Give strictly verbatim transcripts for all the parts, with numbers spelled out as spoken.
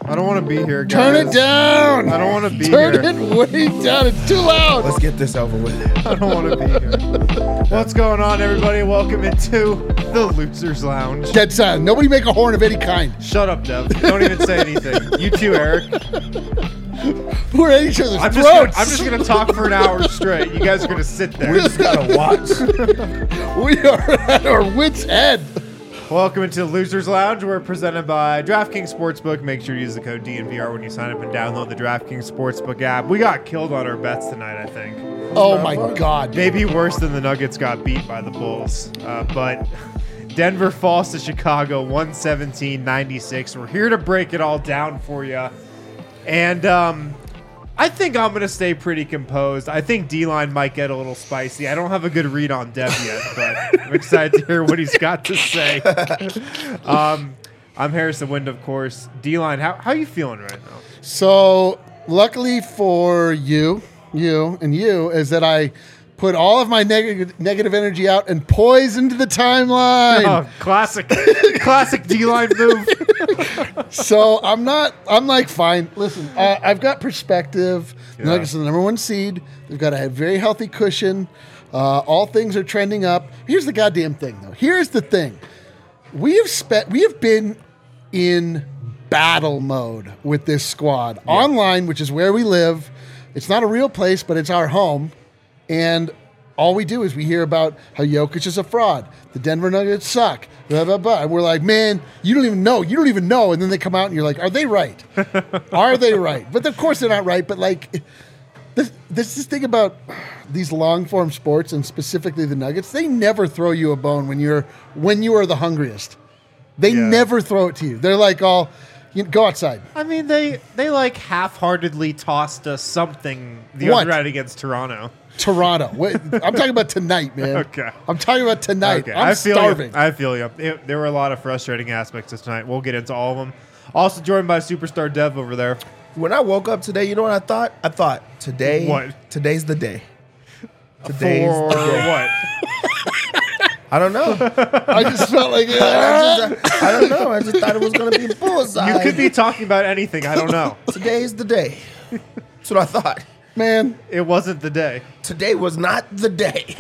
I don't want to be here, guys. Turn it down. I don't want to be Turn here. Turn it way down. It's too loud. Let's get this over with. I don't want to be here. What's going on, everybody? Welcome into the Losers Lounge. Dead silent. Nobody make a horn of any kind. Shut up, Dev. Don't even say anything. You too, Eric. We're at each other's I'm throats. just, gonna, I'm just gonna talk for an hour straight. You guys are gonna sit there. We just gotta watch. We are at our wits' end. Welcome into the Losers Lounge. We're presented by DraftKings Sportsbook. Make sure to use the code D N V R when you sign up and download the DraftKings Sportsbook app. We got killed on our bets tonight, I think. Oh my God. Maybe worse than the Nuggets got beat by the Bulls. Uh, but Denver falls to Chicago one seventeen ninety-six. We're here to break it all down for you. And um, I think I'm going to stay pretty composed. I think D-Line might get a little spicy. I don't have a good read on Dev yet, but I'm excited to hear what he's got to say. um, I'm Harrison Wind, of course. D-Line, how how you feeling right now? So, luckily for you, you, and you, is that I put all of my neg- negative energy out and poisoned the timeline. Oh, classic, classic D-Line move. So I'm not. I'm like fine. Listen, uh, I've got perspective. The Yeah. Nuggets are the number one seed. They've got a very healthy cushion. Uh, all things are trending up. Here's the goddamn thing, though. Here's the thing. We have spent. We have been in battle mode with this squad Yeah. online, which is where we live. It's not a real place, but it's our home. And all we do is we hear about how Jokic is a fraud. The Denver Nuggets suck. Blah, blah, blah. And we're like, man, you don't even know. You don't even know. And then they come out and you're like, are they right? Are they right? But of course they're not right. But like, this, this this thing about these long form sports and specifically the Nuggets, they never throw you a bone when you're when you are the hungriest. They Yeah. never throw it to you. They're like, all, you know, go outside. I mean, they they like half-heartedly tossed us something the What? other night against Toronto. Toronto. Wait, I'm talking about tonight, man. Okay. I'm talking about tonight. Okay, I'm I feel starving. You. I feel you. It, there were a lot of frustrating aspects of tonight. We'll get into all of them. Also joined by superstar Dev over there. When I woke up today, you know what I thought? I thought today. What? Today's the day. Today's For the day. what? I don't know. I just felt like I, just, I don't know. I just thought it was gonna be a bullseye. You could be talking about anything. I don't know. Today's the day. That's what I thought. man. It wasn't the day. Today was not the day.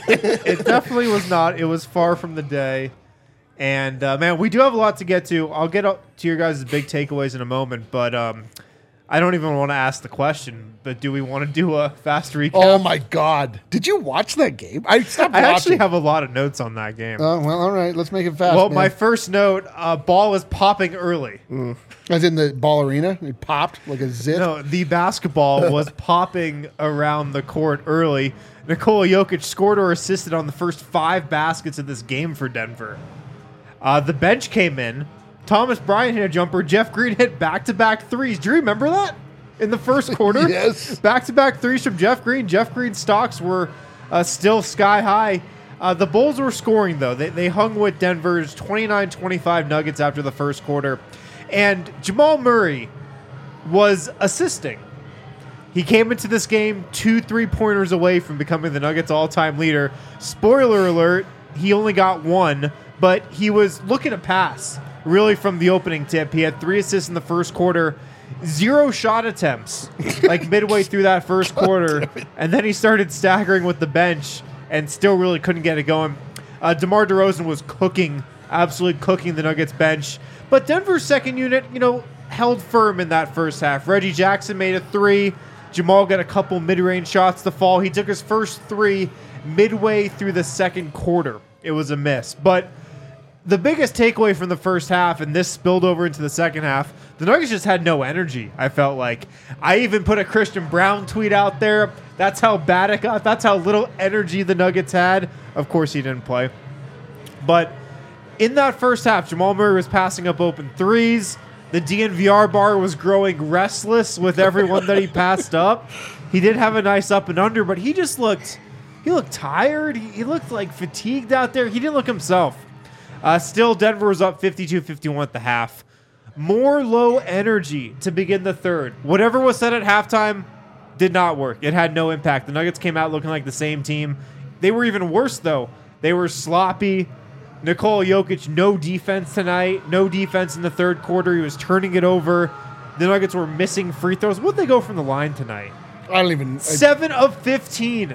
It definitely was not. It was far from the day. And, uh, man, we do have a lot to get to. I'll get up to your guys' big takeaways in a moment, but um, I don't even want to ask the question, but do we want to do a fast recap? Oh my God! Did you watch that game? I stopped I watching. actually have a lot of notes on that game. Oh well, all right. Let's make it fast. well, man. my first note, uh, ball was popping early. as in the ball arena, it popped like a zit. No, the basketball was popping around the court early. Nikola Jokic scored or assisted on the first five baskets of this game for Denver. Uh, the bench came in. Thomas Bryant hit a jumper. Jeff Green hit back-to-back threes. Do you remember that? In the first quarter? Yes. Back-to-back threes from Jeff Green. Jeff Green's stocks were uh, still sky high. Uh, the Bulls were scoring, though. They, they hung with Denver's twenty-nine twenty-five Nuggets after the first quarter. And Jamal Murray was assisting. He came into this game two three-pointers away from becoming the Nuggets' all-time leader. Spoiler alert, he only got one, but he was looking to pass, really, from the opening tip. He had three assists in the first quarter, zero shot attempts, like midway through that first quarter, and then he started staggering with the bench and still really couldn't get it going. Uh, DeMar DeRozan was cooking, absolutely cooking the Nuggets bench, but Denver's second unit, you know, held firm in that first half. Reggie Jackson made a three. Jamal got a couple mid-range shots to fall. He took his first three midway through the second quarter. It was a miss. But the biggest takeaway from the first half, and this spilled over into the second half, the Nuggets just had no energy, I felt like. I even put a Christian Brown tweet out there. That's how bad it got. That's how little energy the Nuggets had. Of course, he didn't play. But in that first half, Jamal Murray was passing up open threes. The D N V R bar was growing restless with everyone that he passed up. He did have a nice up and under, but he just looked, he looked tired. He, he looked like fatigued out there. He didn't look himself. Uh, still, Denver was up fifty-two fifty-one at the half. More low energy to begin the third. Whatever was said at halftime did not work. It had no impact. The Nuggets came out looking like the same team. They were even worse, though. They were sloppy. Nikola Jokic, no defense tonight. No defense in the third quarter. He was turning it over. the Nuggets were missing free throws. What'd they go from the line tonight? I don't even. I, Seven of fifteen.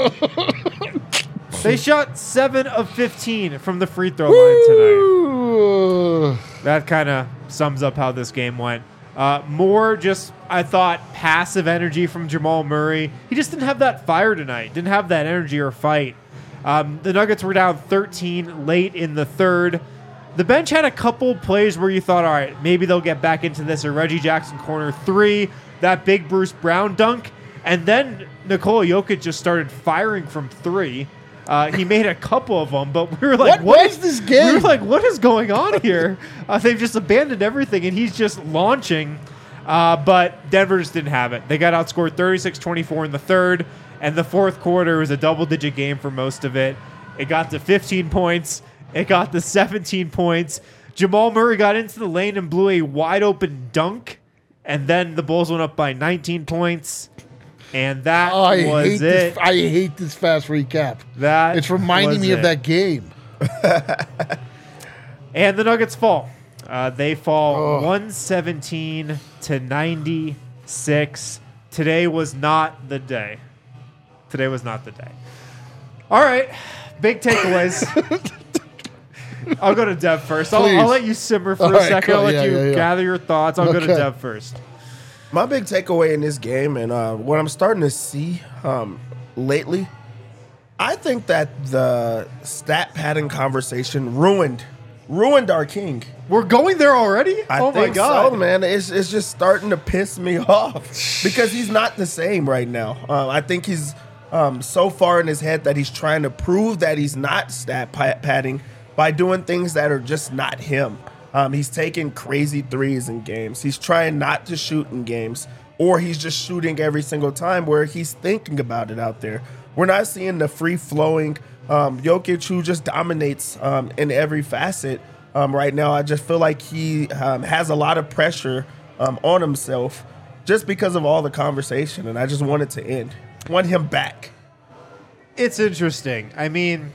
They shot seven of fifteen from the free throw line tonight. That kind of sums up how this game went. Uh, more just, I thought, passive energy from Jamal Murray. He just didn't have that fire tonight. Didn't have that energy or fight. Um, the Nuggets were down thirteen late in the third. The bench had a couple plays where you thought, all right, maybe they'll get back into this. Or Reggie Jackson corner three, that big Bruce Brown dunk. And then Nikola Jokic just started firing from three. Uh, he made a couple of them, but we were like, what, what was this game? We were like, what is going on here? Uh, they've just abandoned everything, and he's just launching. Uh, but Denver just didn't have it. They got outscored thirty-six twenty-four in the third, and the fourth quarter was a double-digit game for most of it. It got to fifteen points. It got to seventeen points. Jamal Murray got into the lane and blew a wide-open dunk, and then the Bulls went up by nineteen points. And that oh, I was hate it. This, I hate this fast recap. That it's reminding me it. of that game. And the Nuggets fall. Uh, they fall oh. one seventeen to ninety-six. Today was not the day. Today was not the day. All right, big takeaways. I'll go to Dev first. I'll, I'll let you simmer for All a right, second. cool. I'll let yeah, you yeah, yeah. gather your thoughts. I'll okay. go to Dev first. My big takeaway in this game, and uh, what I'm starting to see um, lately, I think that the stat padding conversation ruined ruined our king. We're going there already? I oh think my god, so, man. It's it's just starting to piss me off because he's not the same right now. Uh, I think he's um, so far in his head that he's trying to prove that he's not stat padding by doing things that are just not him. Um, he's taking crazy threes in games. He's trying not to shoot in games, or he's just shooting every single time where he's thinking about it out there. We're not seeing the free-flowing um, Jokic who just dominates um, in every facet um, right now. I just feel like he um, has a lot of pressure um, on himself just because of all the conversation, and I just want it to end. I want him back. It's interesting. I mean,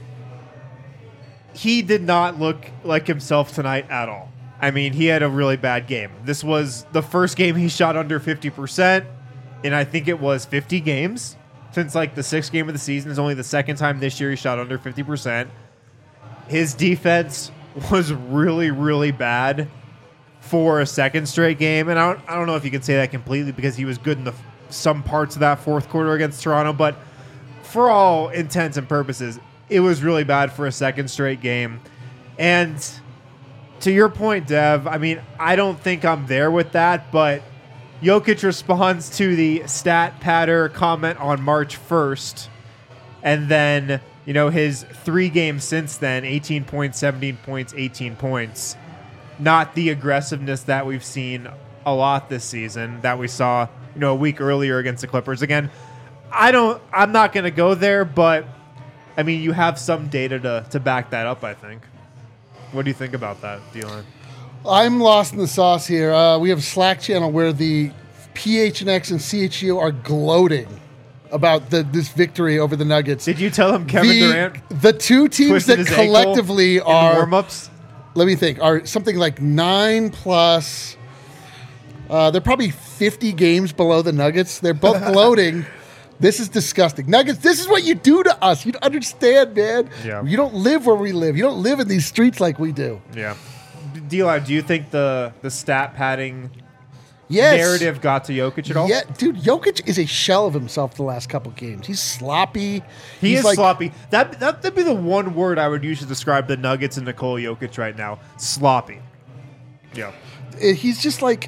he did not look like himself tonight at all. I mean, he had a really bad game. This was the first game he shot under fifty percent, and I think it was fifty games since like the sixth game of the season. Is only the second time this year he shot under fifty percent. His defense was really, really bad for a second straight game, and I don't, I don't know if you can say that completely because he was good in the some parts of that fourth quarter against Toronto, but for all intents and purposes, it was really bad for a second straight game. And to your point, Dev, I mean, I don't think I'm there with that, but Jokic responds to the stat patter comment on March first. And then, you know, his three games since then, eighteen points, seventeen points, eighteen points. Not the aggressiveness that we've seen a lot this season that we saw, you know, a week earlier against the Clippers. Again, I don't, I'm not going to go there, but I mean, you have some data to, to back that up, I think. What do you think about that, D-Line? I'm lost in the sauce here. Uh, we have a Slack channel where the P H N X and C H U are gloating about the, this victory over the Nuggets. Did you tell him Kevin the, Durant The two teams twisted that his ankle collectively in the are, warm-ups? let me think, are something like nine plus, uh, they're probably fifty games below the Nuggets. They're both gloating. This is disgusting. Nuggets, this is what you do to us. You don't understand, man. Yeah. You don't live where we live. You don't live in these streets like we do. Yeah. D-Line, do you think the, the stat padding Yes. narrative got to Jokic at all? Yeah, dude, Jokic is a shell of himself the last couple games. He's sloppy. He He's is like, sloppy. That, that, that'd be the one word I would use to describe the Nuggets and Nikola Jokic right now. Sloppy. Yeah. He's just like,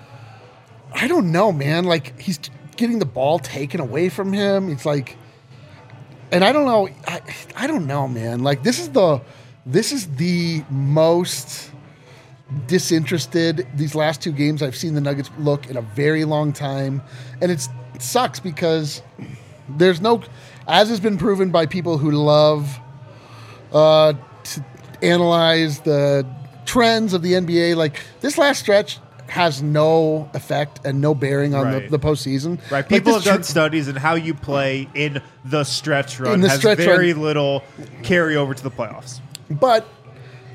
I don't know, man. Like, he's getting the ball taken away from him. It's like, and I don't know. I, I don't know, man. Like, this is the, this is the most disinterested these last two games I've seen the Nuggets look in a very long time. And it's, it sucks because there's no, as has been proven by people who love uh, to analyze the trends of the N B A, like this last stretch has no effect and no bearing on Right. the, the postseason. Right. Like, People this have done tr- studies in how you play in the stretch run In the has stretch very run. little carry over to the playoffs. But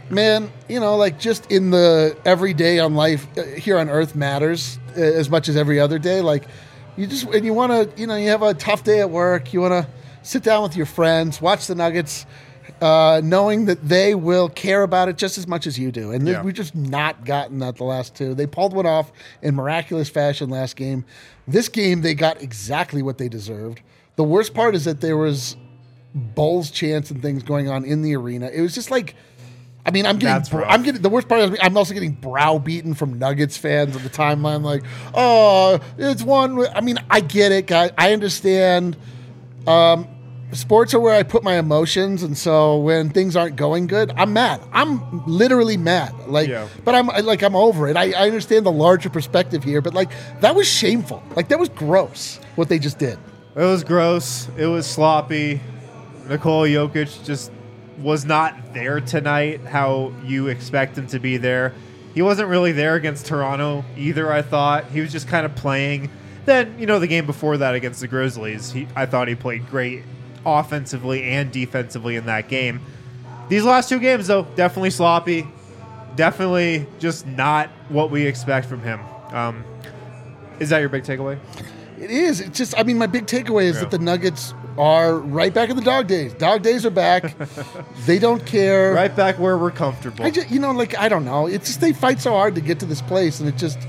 man, you know, like just in the everyday on life uh, here on Earth matters uh, as much as every other day. Like you just, and you want to, you know, you have a tough day at work. You want to sit down with your friends, watch the Nuggets, uh, knowing that they will care about it just as much as you do. And th- Yeah. we've just not gotten that the last two. They pulled one off in miraculous fashion last game. This game, they got exactly what they deserved. The worst part is that there was Bulls chants and things going on in the arena. It was just like, I mean, I'm getting, That's rough. I'm getting, the worst part is I'm also getting browbeaten from Nuggets fans on the timeline. Like, oh, it's one. I mean, I get it, guys. I understand. Um, sports are where I put my emotions, and so when things aren't going good, I'm mad. I'm literally mad. Like, Yeah. but I'm I- like, I'm over it. I, I understand the larger perspective here, but like, that was shameful. Like, that was gross what they just did. It was gross. It was sloppy. Nikola Jokic just was not there tonight how you expect him to be there. He wasn't really there against Toronto either, I thought. He was just kind of playing. Then, you know, the game before that against the Grizzlies, he, I thought he played great offensively and defensively in that game. These last two games, though, definitely sloppy. Definitely just not what we expect from him. Um, is that your big takeaway? It is. It's just, I mean, my big takeaway is Yeah. that the Nuggets are right back in the dog days. Dog days are back. They don't care. Right back where we're comfortable. I just, you know, like, I don't know. It's just they fight so hard to get to this place, and it just,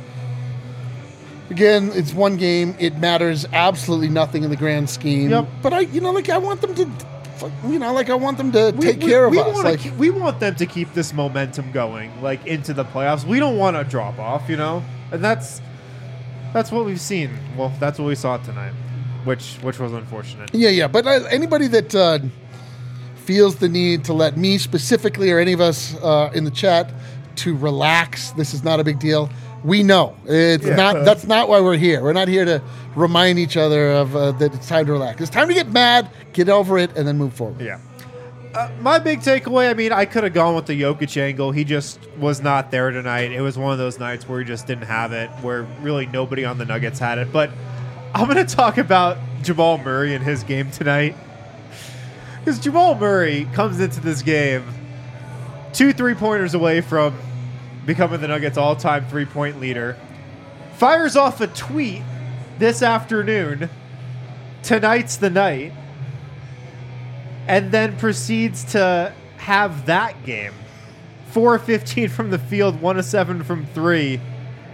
again, it's one game. It matters absolutely nothing in the grand scheme. Yep. But I, you know, like, I want them to, you know, like, I want them to We- take we- care of we us. wanna Like, keep- we want them to keep this momentum going, like into the playoffs. We don't want to drop off, you know, and that's that's what we've seen. Well, that's what we saw tonight, which which was unfortunate. yeah, yeah. But uh, anybody that uh, feels the need to let me specifically or any of us uh, in the chat to relax, this is not a big deal. We know it's Yeah. not. That's not why we're here. We're not here to remind each other of uh, that it's time to relax. It's time to get mad, get over it, and then move forward. Yeah. Uh, my big takeaway, I mean, I could have gone with the Jokic angle. He just was not there tonight. It was one of those nights where he just didn't have it, where really nobody on the Nuggets had it. But I'm going to talk about Jamal Murray and his game tonight. Because Jamal Murray comes into this game two three-pointers away from becoming the Nuggets' all-time three-point leader. Fires off a tweet this afternoon, tonight's the night, and then proceeds to have that game. four of fifteen from the field, one of seven from three,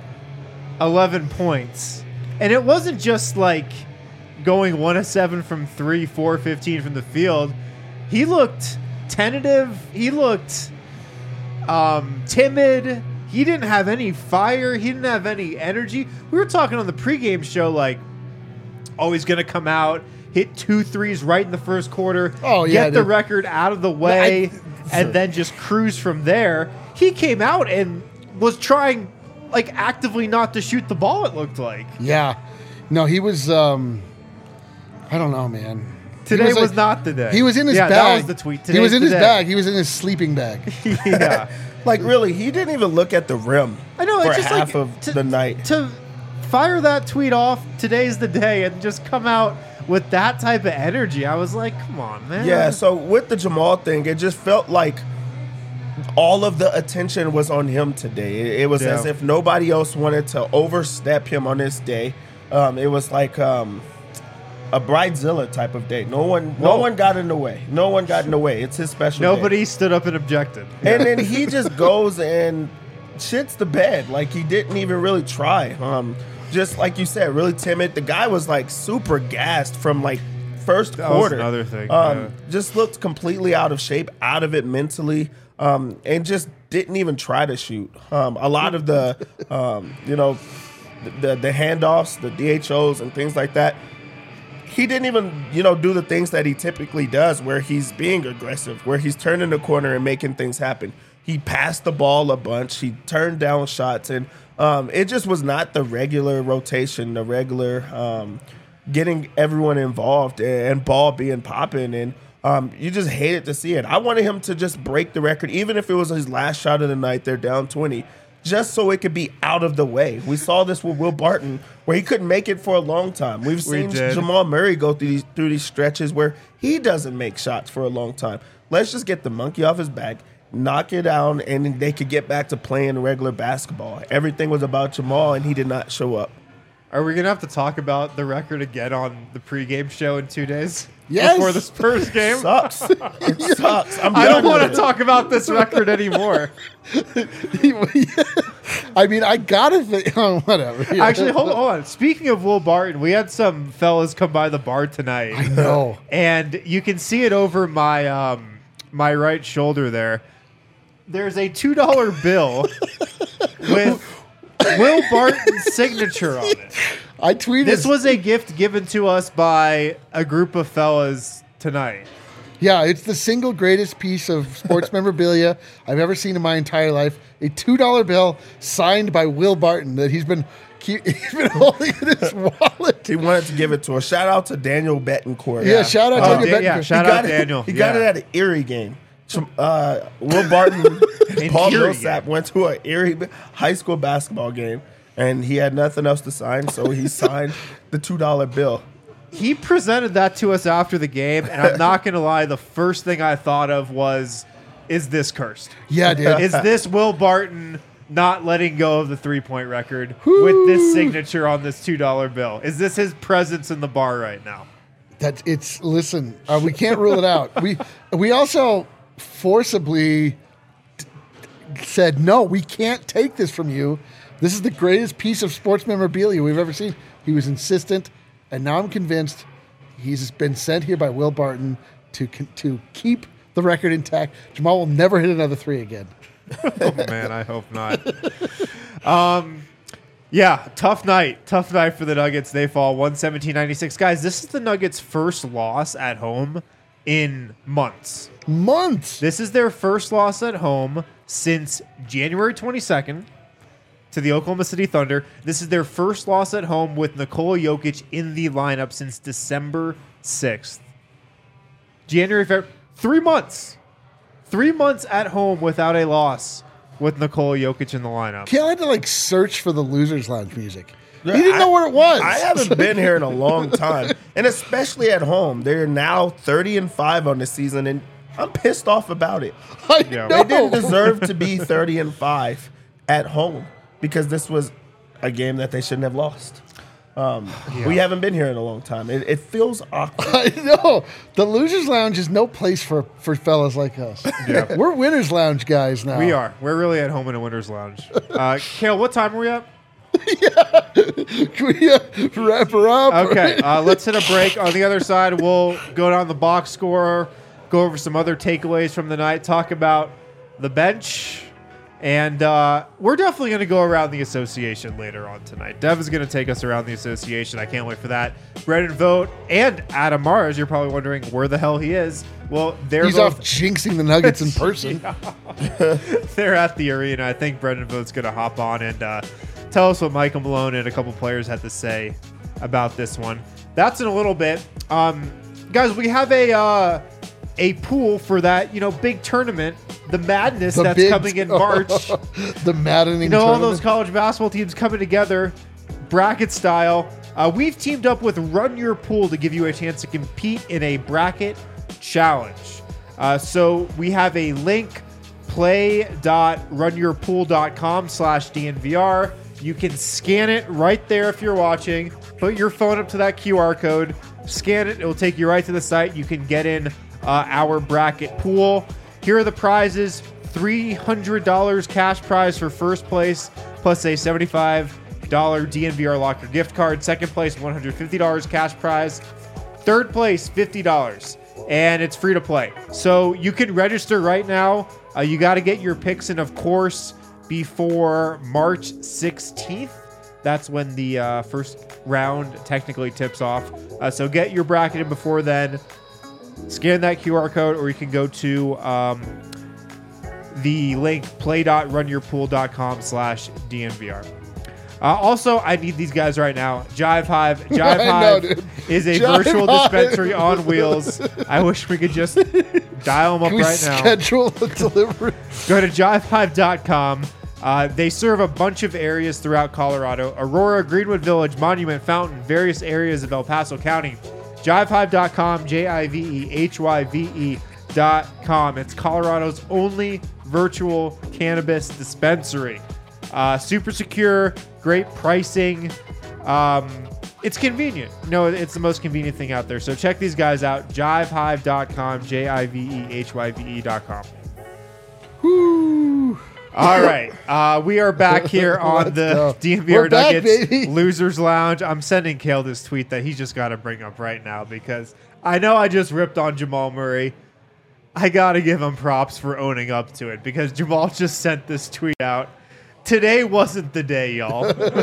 eleven points. And it wasn't just like going one of seven from three, four of fifteen from the field. He looked tentative. He looked um, timid. He didn't have any fire. He didn't have any energy. We were talking on the pregame show like, oh, he's going to come out, hit two threes right in the first quarter, Oh, yeah, get the dude. record out of the way, I- and then just cruise from there. He came out and was trying, like, actively not to shoot the ball, it looked like. Yeah. No, he was. Um, I don't know, man. He Today was, like- not the day. He was in his yeah, bag. that was the tweet. He was Today's in the his day. bag. He was in his sleeping bag. yeah. Like, really, he didn't even look at the rim I know, for it's just half like of to- the night. To fire that tweet off, today's the day, and just come out with that type of energy, I was like, come on, man. Yeah, so with the Jamal thing, it just felt like all of the attention was on him today. It, it was Yeah. as if nobody else wanted to overstep him on this day. Um, it was like um, a Bridezilla type of day. No one, no Whoa. one got in the way. No one got in the way. It's his special day. Nobody stood up and objected. And then he just goes and shits the bed. Like, he didn't even really try. Um, just like you said, really timid. The guy was like super gassed from like first That was quarter. another thing, Um, yeah. Just looked completely out of shape, out of it mentally, um, and just didn't even try to shoot. Um, a lot of the, um, you know, the the handoffs, the D H Os, and things like that. He didn't even, you know, do the things that he typically does, where he's being aggressive, where he's turning the corner and making things happen. He passed the ball a bunch. He turned down shots, and um, it just was not the regular rotation, the regular um, getting everyone involved and ball being popping. And um, you just hated to see it. I wanted him to just break the record, even if it was his last shot of the night. They're down twenty. Just so it could be out of the way. We saw this with Will Barton, where he couldn't make it for a long time. We've seen did. Jamal Murray go through these through these stretches where he doesn't make shots for a long time. Let's just get the monkey off his back knock it down, and they could get back to playing regular basketball. Everything was about Jamal, and he did not show up. Are we gonna have to talk about the record again on the pregame show in two days? Yes. Before the Spurs game. Sucks. It sucks. I'm I don't done want with to it. talk about this record anymore. I mean, I gotta think. Oh, whatever. Yeah. Actually, hold, hold on. Speaking of Will Barton, we had some fellas come by the bar tonight. no. And you can see it over my um, my right shoulder there. There's a two dollar bill with Will Barton's signature on it. I tweeted. This was a gift given to us by a group of fellas tonight. Yeah, it's the single greatest piece of sports memorabilia I've ever seen in my entire life. A two dollar bill signed by Will Barton that he's been keep, he's been holding in his wallet. He wanted to give it to us. Shout out to Daniel Betancourt. Yeah, shout out to Oh, Daniel Dan- yeah, Betancourt. shout he out got it- Daniel. He Yeah. got it at an Erie game. Some, Uh, Will Barton and Paul Erie Millsap game. went to an Erie high school basketball game, and he had nothing else to sign, so he signed the two dollar bill. He presented that to us after the game, and I'm not going to lie, the first thing I thought of was, is this cursed? Yeah, dude. Is this Will Barton not letting go of the three-point record with this signature on this two dollar bill? Is this his presence in the bar right now? That it's listen. Uh, we can't rule it out. We we also forcibly t- said no. We can't take this from you. This is the greatest piece of sports memorabilia we've ever seen. He was insistent, and now I'm convinced he's been sent here by Will Barton to con- to keep the record intact. Jamal will never hit another three again. Oh, man, I hope not. um, yeah, tough night. Tough night for the Nuggets. They fall one seventeen ninety-six. Guys, this is the Nuggets' first loss at home in months. Months. This is their first loss at home since January twenty-second to the Oklahoma City Thunder. This is their first loss at home with Nikola Jokic in the lineup since December sixth. January, February, three months. Three months at home without a loss with Nikola Jokic in the lineup. Kel had to like search for the Losers Lounge music. Yeah, he didn't I- know what it was. I haven't been here in a long time, and especially at home. They're now thirty and five on the season, and I'm pissed off about it. I Yeah. know. They didn't deserve to be thirty and five at home because this was a game that they shouldn't have lost. Um, We haven't been here in a long time. It, it feels awkward. I know. The Losers Lounge is no place for, for fellas like us. Yeah. We're Winners Lounge guys now. We are. We're really at home in a winter's lounge. Uh, Kale, what time are we at? Can we uh, wrap her up? Okay, uh, let's hit a break. On the other side, we'll go down the box score, go over some other takeaways from the night, talk about the bench, and uh, we're definitely going to go around the association later on tonight. Dev is going to take us around the association. I can't wait for that. Brendan Vogt and Adam Mars, you're probably wondering where the hell he is. Well, they're He's both off jinxing the Nuggets in person. they're at the arena. I think Brendan Vogt's going to hop on and uh, tell us what Michael Malone and a couple players had to say about this one. That's in a little bit. Um, guys, we have a uh, a pool for that, you know, big tournament, the madness The that's big- coming in March. The maddening You know, all tournament. those college basketball teams coming together, bracket style. Uh, we've teamed up with Run Your Pool to give you a chance to compete in a bracket challenge. Uh, so we have a link, play.runyourpool.com slash DNVR. You can scan it right there if you're watching. Put your phone up to that Q R code, scan it. It will take you right to the site. You can get in uh, our bracket pool. Here are the prizes. three hundred dollars cash prize for first place, plus a seventy-five dollars D N V R Locker gift card. Second place, one hundred fifty dollars cash prize. Third place, fifty dollars. And it's free to play. So you can register right now. Uh, you got to get your picks in, of course, before March sixteenth. That's when the uh, first round technically tips off. Uh, so get your bracket in before then. Scan that Q R code, or you can go to um, the link play.runyourpool.com slash DNVR. Uh, also, I need these guys right now. Jive Hive. Jive I know, Hive dude. is a Jive virtual Hive. dispensary on wheels. I wish we could just dial them up Can we right now. schedule the delivery? Go to jive hive dot com. Uh, they serve a bunch of areas throughout Colorado. Aurora, Greenwood Village, Monument, Fountain, various areas of El Paso County. jive hive dot com, J I V E H Y V E dot com. It's Colorado's only virtual cannabis dispensary. Uh, super secure, great pricing. Um, it's convenient. No, it's the most convenient thing out there. So check these guys out. jive hive dot com, J I V E H Y V E dot com. Woo. All right. Uh, we are back here on Let's the go. D M V R We're back, Nuggets baby. Losers Lounge. I'm sending Kale this tweet that he's just got to bring up right now because I know I just ripped on Jamal Murray. I got to give him props for owning up to it because Jamal just sent this tweet out. Today wasn't the day, y'all.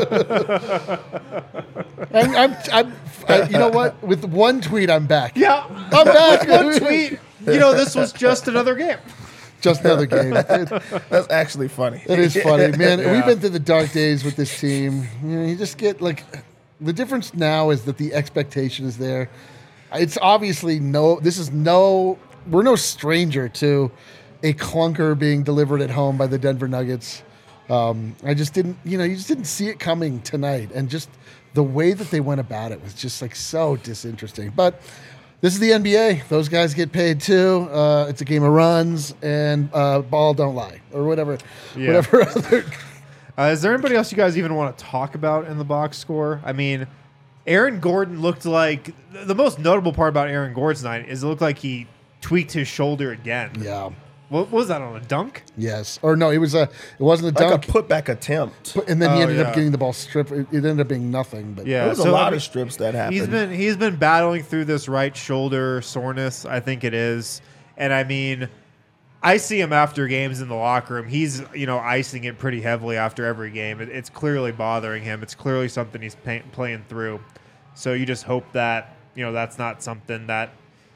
I'm, I'm, I'm, I, you know what? With one tweet, I'm back. Yeah. I'm back. One tweet. You know, this was just another game. Just another game. It, That's actually funny. it is funny, man. Yeah. We've been through the dark days with this team. You know, you just get like the difference now is that the expectation is there. It's obviously no. This is no. We're no stranger to a clunker being delivered at home by the Denver Nuggets. Um, I just didn't, you know, you just didn't see it coming tonight, and just the way that they went about it was just like so disinteresting. But this is the N B A; those guys get paid too. Uh, it's a game of runs, and uh, ball don't lie, or whatever, Yeah. whatever other. Uh, is there anybody else you guys even want to talk about in the box score? I mean, Aaron Gordon looked like the most notable part about Aaron Gordon's night is it looked like he tweaked his shoulder again. Yeah. What was that on a dunk? Yes. Or no, it was a. It wasn't a Like dunk. a putback attempt. But- and then he Oh, ended yeah. up getting the ball stripped. It, it ended up being nothing. But Yeah, There was so, a lot I mean, of strips that happened. He's been he's been battling through this right shoulder soreness, I think it is. And I mean, I see him after games in the locker room. He's, you know, icing it pretty heavily after every game. It, it's clearly bothering him. It's clearly something he's pay, playing through. So you just hope that, you know, that's not something that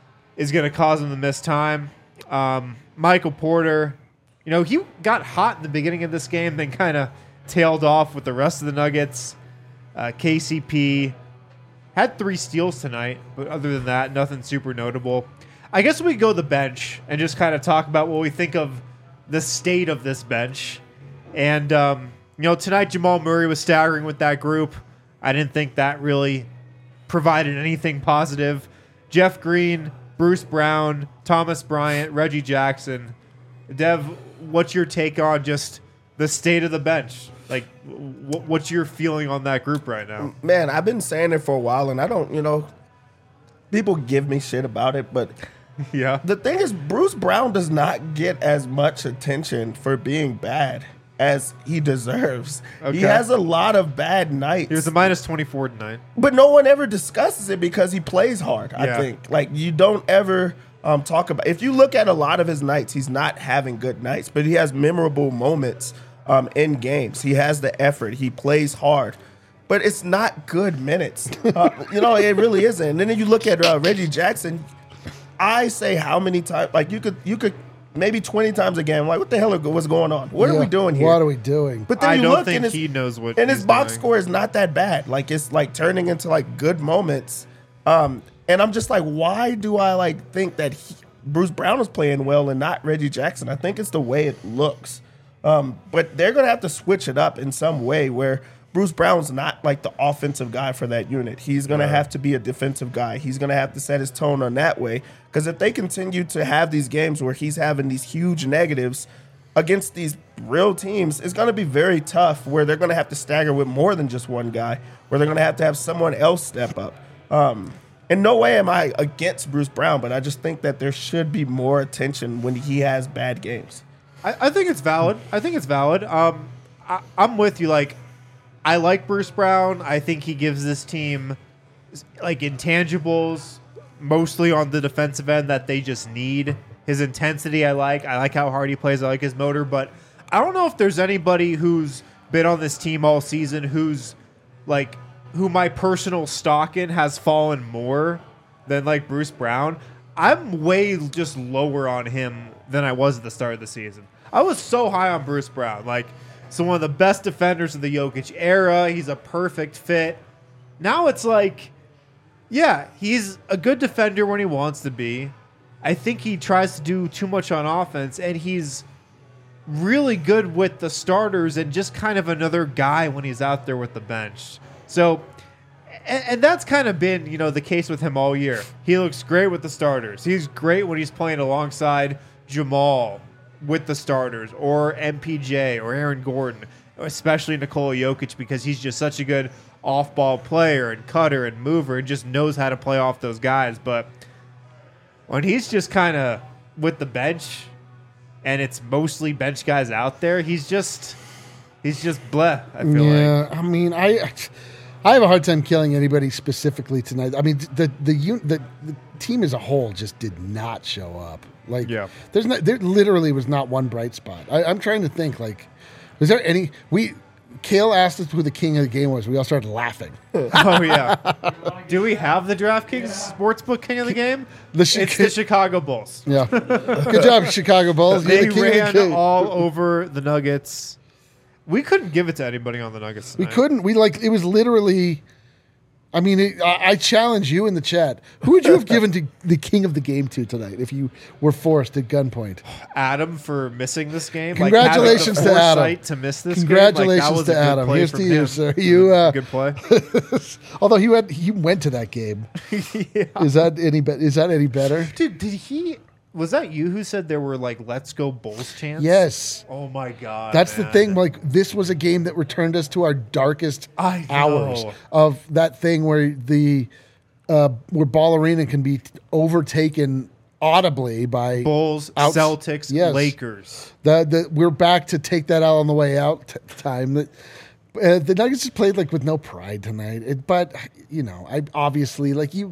is going to cause him to miss time. Um, Michael Porter, you know, he got hot in the beginning of this game, then kind of tailed off with the rest of the Nuggets. Uh, K C P had three steals tonight, but other than that, nothing super notable. I guess we go to the bench and just kind of talk about what we think of the state of this bench. And, um, you know, tonight Jamal Murray was staggering with that group. I didn't think that really provided anything positive. Jeff Green, Bruce Brown, Thomas Bryant, Reggie Jackson. Dev, what's your take on just the state of the bench? Like, wh- what's your feeling on that group right now? Man, I've been saying it for a while, and I don't, you know, people give me shit about it, but Yeah. the thing is, Bruce Brown does not get as much attention for being bad as he deserves. Okay. He has a lot of bad nights. He was a minus twenty-four tonight. But no one ever discusses it because he plays hard, I Yeah. think. Like, you don't ever um, talk about... If you look at a lot of his nights, he's not having good nights, but he has memorable moments um, in games. He has the effort. He plays hard. But it's not good minutes. Uh, you know, it really isn't. And then you look at uh, Reggie Jackson, I say how many times... Like, you could you could maybe twenty times a game. I'm like, what the hell are, what's going on? What are Yeah. we doing here? What are we doing? But then I you don't look think and his, he knows what and he's his box doing. score is not that bad. Like, it's like turning into like good moments. Um, and I'm just like, why do I like think that he, Bruce Brown is playing well and not Reggie Jackson? I think it's the way it looks. Um, but they're gonna have to switch it up in some way where Bruce Brown's not like the offensive guy for that unit. He's gonna Yeah. have to be a defensive guy. He's gonna have to set his tone on that way. Because if they continue to have these games where he's having these huge negatives against these real teams, it's going to be very tough where they're going to have to stagger with more than just one guy, where they're going to have to have someone else step up. Um, in no way am I against Bruce Brown, but I just think that there should be more attention when he has bad games. I, I think it's valid. I think it's valid. Um, I, I'm with you. Like, I like Bruce Brown. I think he gives this team like intangibles, mostly on the defensive end that they just need. His intensity, I like. I like how hard he plays. I like his motor. But I don't know if there's anybody who's been on this team all season who's like who my personal stock in has fallen more than like Bruce Brown. I'm way just lower on him than I was at the start of the season. I was so high on Bruce Brown. Like, so one of the best defenders of the Jokic era. He's a perfect fit. Now it's like, yeah, he's a good defender when he wants to be. I think he tries to do too much on offense, and he's really good with the starters and just kind of another guy when he's out there with the bench. So, and, and that's kind of been, you know, the case with him all year. He looks great with the starters. He's great when he's playing alongside Jamal, with the starters, or M P J, or Aaron Gordon, especially Nikola Jokic, because he's just such a good off-ball player and cutter and mover and just knows how to play off those guys. But when he's just kind of with the bench and it's mostly bench guys out there, he's just he's just bleh, I feel yeah, like. I mean, I I have a hard time killing anybody specifically tonight. I mean, the the un, the, the team as a whole just did not show up. Like, Yeah. there's not, there literally was not one bright spot. I, I'm trying to think, like, was there any, we, Kale asked us who the king of the game was. We all started laughing. Oh, yeah. Do we have the DraftKings Sportsbook king of the game? The Chi- It's the Chicago Bulls. Yeah. Good job, Chicago Bulls. You're They the king of the ran king. all over the Nuggets. We couldn't give it to anybody on the Nuggets We tonight. couldn't. We like it was literally. I mean, it, I, I challenge you in the chat. Who would you have given to the king of the game to tonight if you were forced at gunpoint? Adam for missing this game. Congratulations like, having the to Adam. foresight to miss this Congratulations game. Like, that was to a good Adam. play Here's from to you, him. sir. You uh, Good play. although he went, he went to that game. Yeah. Is that any be- Is that any better? Dude, did he? Was that you who said there were like "Let's Go Bulls" chants? Yes. Oh my god. That's the man. thing. Like, this was a game that returned us to our darkest I hours know. of that thing where the uh, where Ball Arena can be overtaken audibly by Bulls, Outs- Celtics, Yes. Lakers. The, the we're back to take that out on the way out t- time. That uh, the Nuggets just played like with no pride tonight. It, but you know, I obviously like you.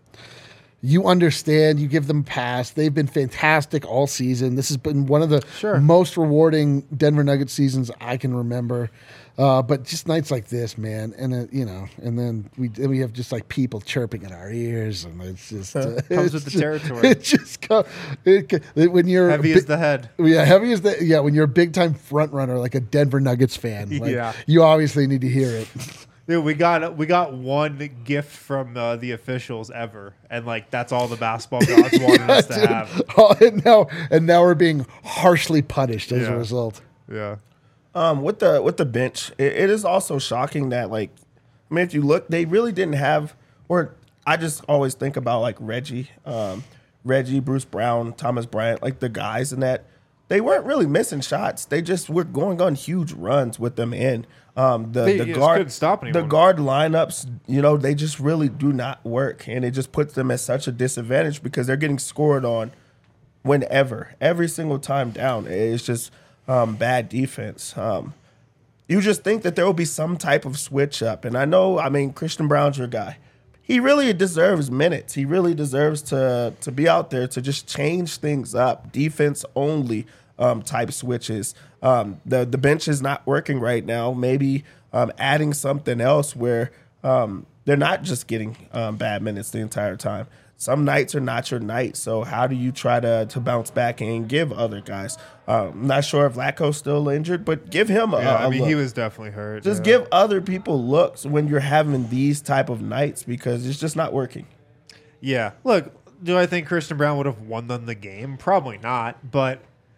You understand. You give them a pass. They've been fantastic all season. This has been one of the Sure. most rewarding Denver Nuggets seasons I can remember. Uh, but just nights like this, man, and uh, you know, and then we then we have just like people chirping in our ears, and it's just uh, Comes it's with the just- territory. It just co- it, co- when you're Heavy bi- as the head. yeah, heavy as the yeah. When you're a big time front runner like a Denver Nuggets fan, like, Yeah. you obviously need to hear it. Dude, we got we got one gift from uh, the officials ever, and like that's all the basketball gods wanted us to Dude. have. Oh, and now and now we're being harshly punished as Yeah. a result. Yeah. Um, with the with the bench, it, it is also shocking that like, I mean, if you look, they really didn't have. Or I just always think about like Reggie, um, Reggie, Bruce Brown, Thomas Bryant, like the guys in that. They weren't really missing shots. They just were going on huge runs with them in. Um, the They the just guard couldn't stop the anyone. guard lineups, you know, they just really do not work, and it just puts them at such a disadvantage because they're getting scored on whenever, every single time down. It's just um, bad defense. Um, you just think that there will be some type of switch up. And I know, I mean, Christian Brown's your guy. He really deserves minutes. He really deserves to to be out there to just change things up. Defense only um, type switches. Um, the the bench is not working right now. Maybe um, adding something else where um, they're not just getting um, bad minutes the entire time. Some nights are not your night. So how do you try to to bounce back and give other guys? Um, I'm not sure if Vlatko's still injured, but give him a, Yeah, a I mean, look. he was definitely hurt. Just yeah. give other people looks when you're having these type of nights because it's just not working. Yeah. Look, do I think Christian Brown would have won them the game? Probably not. But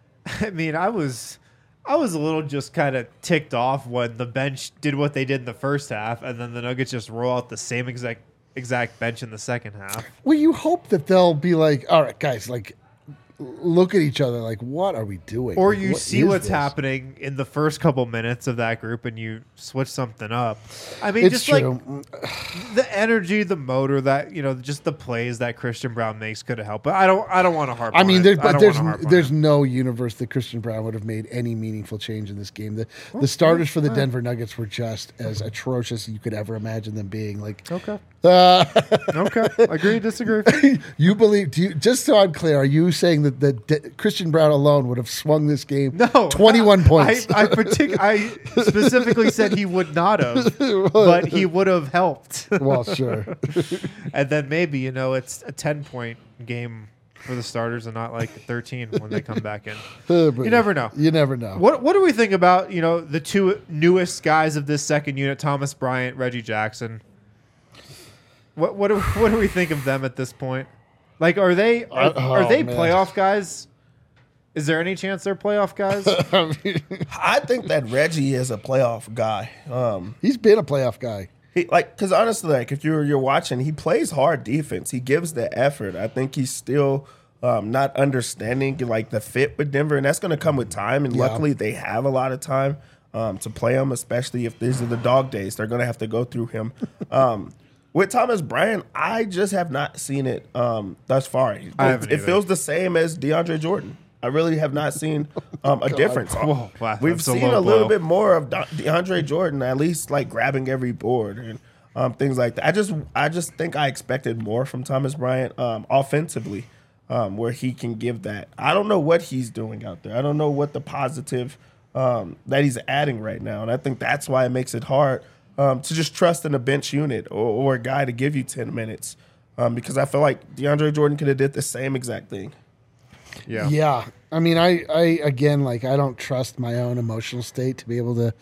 I mean, I was I was a little just kind of ticked off when the bench did what they did in the first half, and then the Nuggets just roll out the same exact exact bench in the second half. Well, you hope that they'll be like, all right, guys, like, look at each other, like, what are we doing? Or Like, you what see is what's this? happening in the first couple minutes of that group, and you switch something up. I mean, It's just true. like the energy, the motor, that you know, just the plays that Christian Brown makes could have helped. But I don't, I don't want to harp. I on mean, it. there, I but don't there's wanna harp on there's it. no universe that Christian Brown would have made any meaningful change in this game. The the starters for the Denver Nuggets were just as atrocious as you could ever imagine them being. Like, Okay. uh, Okay. Agree, disagree. you believe? Do you, just so I'm clear, are you saying that the De- Christian Brown alone would have swung this game No. twenty-one points? I, I, partic- I specifically said he would not have, but he would have helped. Well, sure. And then maybe, you know, it's a ten-point game for the starters and not like thirteen when they come back in. Uh, but You never know. You never know. What What do we think about, you know, the two newest guys of this second unit, Thomas Bryant, Reggie Jackson? What what do, what do we think of them at this point? Like, are they are, Uh, oh, are they man. playoff guys? Is there any chance they're playoff guys? I think that Reggie is a playoff guy. Um, He's been a playoff guy. he like because honestly, like if you're you're watching, he plays hard defense. He gives the effort. I think he's still um, not understanding like the fit with Denver, and that's going to come with time. And Yeah. luckily, they have a lot of time um, to play him, especially if these are the dog days. They're going to have to go through him. Um, with Thomas Bryant, I just have not seen it um, thus far. It, I haven't it either. feels the same as DeAndre Jordan. I really have not seen um, a difference. Whoa, wow, We've that's a seen low a little blow. bit more of De- DeAndre Jordan, at least like grabbing every board and um, things like that. I just, I just think I expected more from Thomas Bryant um, offensively, um, where he can give that. I don't know what he's doing out there. I don't know what the positive um, that he's adding right now, and I think that's why it makes it hard um, to just trust in a bench unit or, or a guy to give you ten minutes, um, because I feel like DeAndre Jordan could have did the same exact thing. Yeah. Yeah. I mean, I, I, again, like, I don't trust my own emotional state to be able to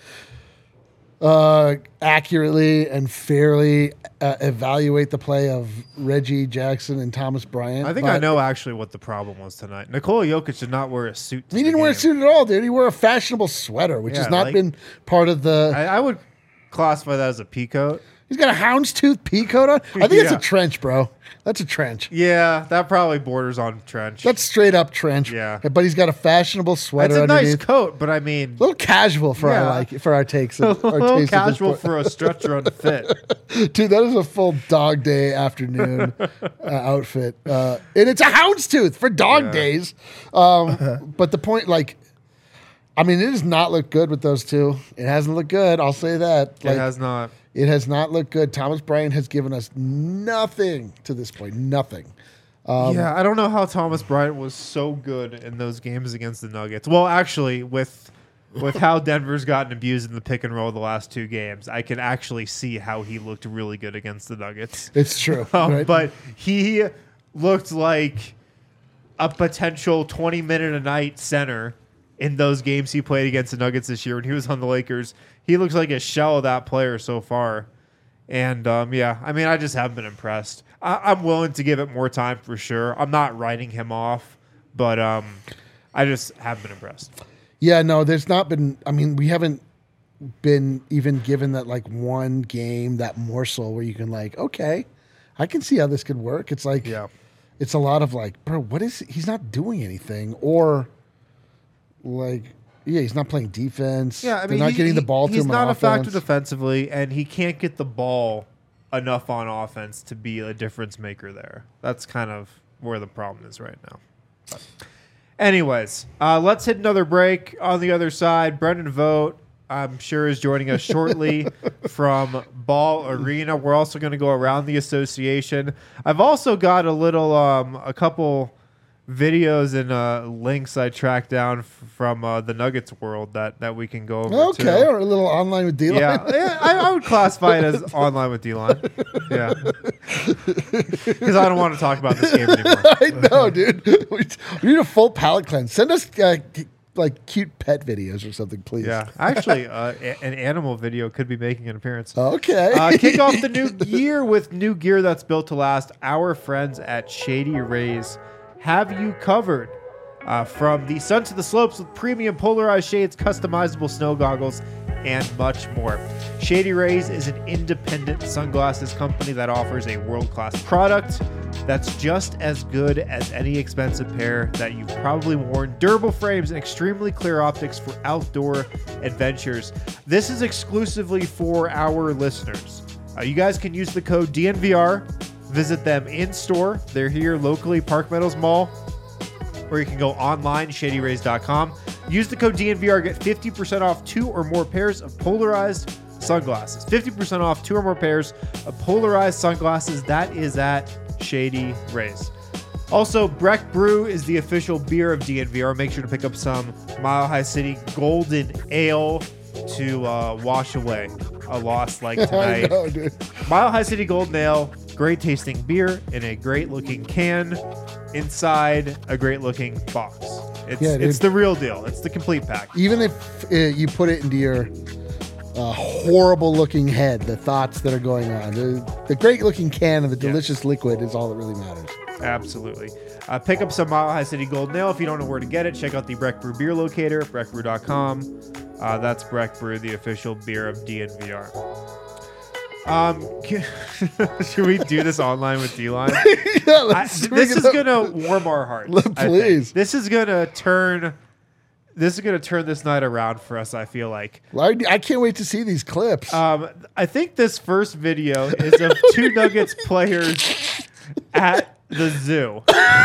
uh, accurately and fairly uh, evaluate the play of Reggie Jackson and Thomas Bryant. I think I but know actually what the problem was tonight. Nikola Jokic did not wear a suit. To He the didn't wear a game. suit at all, dude. He wore a fashionable sweater, which Yeah, has not like- been part of the. I, I would classify that as a peacoat. He's got a houndstooth pea coat on. I think it's Yeah. a trench, bro. That's a trench. Yeah, that probably borders on trench. That's straight up trench. Yeah. But he's got a fashionable sweater That's a nice underneath. coat, but I mean, A little casual for Yeah. our like for our takes. a Of, our little taste of this casual point. for a stretch run fit. Dude, that is a full dog day afternoon uh, outfit. Uh, and it's a houndstooth for dog Yeah. days. Um, but the point, like, I mean, it does not look good with those two. It hasn't looked good. I'll say that. Like, It has not. it has not looked good. Thomas Bryant has given us nothing to this point. Nothing. Um, yeah, I don't know how Thomas Bryant was so good in those games against the Nuggets. Well, actually, with with how Denver's gotten abused in the pick and roll the last two games, I can actually see how he looked really good against the Nuggets. It's true. Um, right? But he looked like a potential twenty minute a night center in those games he played against the Nuggets this year when he was on the Lakers. He looks like a shell of that player so far. And, um, yeah, I mean, I just haven't been impressed. I- I'm willing to give it more time for sure. I'm not writing him off, but um, I just haven't been impressed. Yeah, no, there's not been. I mean, we haven't been even given that like one game, that morsel where you can like, okay, I can see how this could work. It's like, Yeah. it's a lot of like, bro, what is he's not doing anything, or like, yeah, he's not playing defense. Yeah, I mean, they're not he- getting the he- ball to He's him. not on a factor offense. defensively, and he can't get the ball enough on offense to be a difference maker there. That's kind of where the problem is right now. But anyways, uh, let's hit another break. On the other side, Brendan Vogt, I'm sure, is joining us shortly from Ball Arena. We're also going to go around the association. I've also got a little, um, a couple videos and uh, links I tracked down f- from uh, the Nuggets world that, that we can go over. Okay, too. or a little online with D-line. Yeah, yeah I, I would classify it as online with D-line. Yeah. Because I don't want to talk about this game anymore. I know, dude. We we need a full palate cleanse. Send us uh, c- like cute pet videos or something, please. Yeah. Actually, uh, a- an animal video could be making an appearance. Okay. Uh, kick off the new year with new gear that's built to last. Our friends at Shady Rays have you covered. Uh, from the sun to the slopes with premium polarized shades, customizable snow goggles, and much more. Shady Rays is an independent sunglasses company that offers a world-class product that's just as good as any expensive pair that you've probably worn. Durable frames and extremely clear optics for outdoor adventures. This is exclusively for our listeners. Uh, you guys can use the code D N V R. Visit them in store. They're here locally, Park Meadows Mall. Or you can go online, shady rays dot com. Use the code D N V R, get fifty percent off two or more pairs of polarized sunglasses. fifty percent off two or more pairs of polarized sunglasses. That is at Shady Rays. Also, Breck Brew is the official beer of D N V R. Make sure to pick up some Mile High City Golden Ale to uh, wash away a loss like I tonight. know, dude. Mile High City Golden Ale, great tasting beer in a great looking can, inside a great looking box. It's Yeah, dude. it's the real deal. It's the complete pack. Even if uh, you put it into your uh, horrible looking head, the thoughts that are going on, the, the great looking can and the delicious liquid is all that really matters. Absolutely. Uh, pick up some Mile High City Golden Ale. If you don't know where to get it, check out the Breck Brew beer locator, breck brew dot com. Uh, that's Breck Brew, the official beer of D N V R. Um, should we do this online with D-Line? yeah, I, let's this is up. gonna warm our hearts. Let- I think. please. This is gonna turn. This is gonna turn this night around for us. I feel like. I, I can't wait to see these clips. Um, I think this first video is of two Nuggets players at the zoo.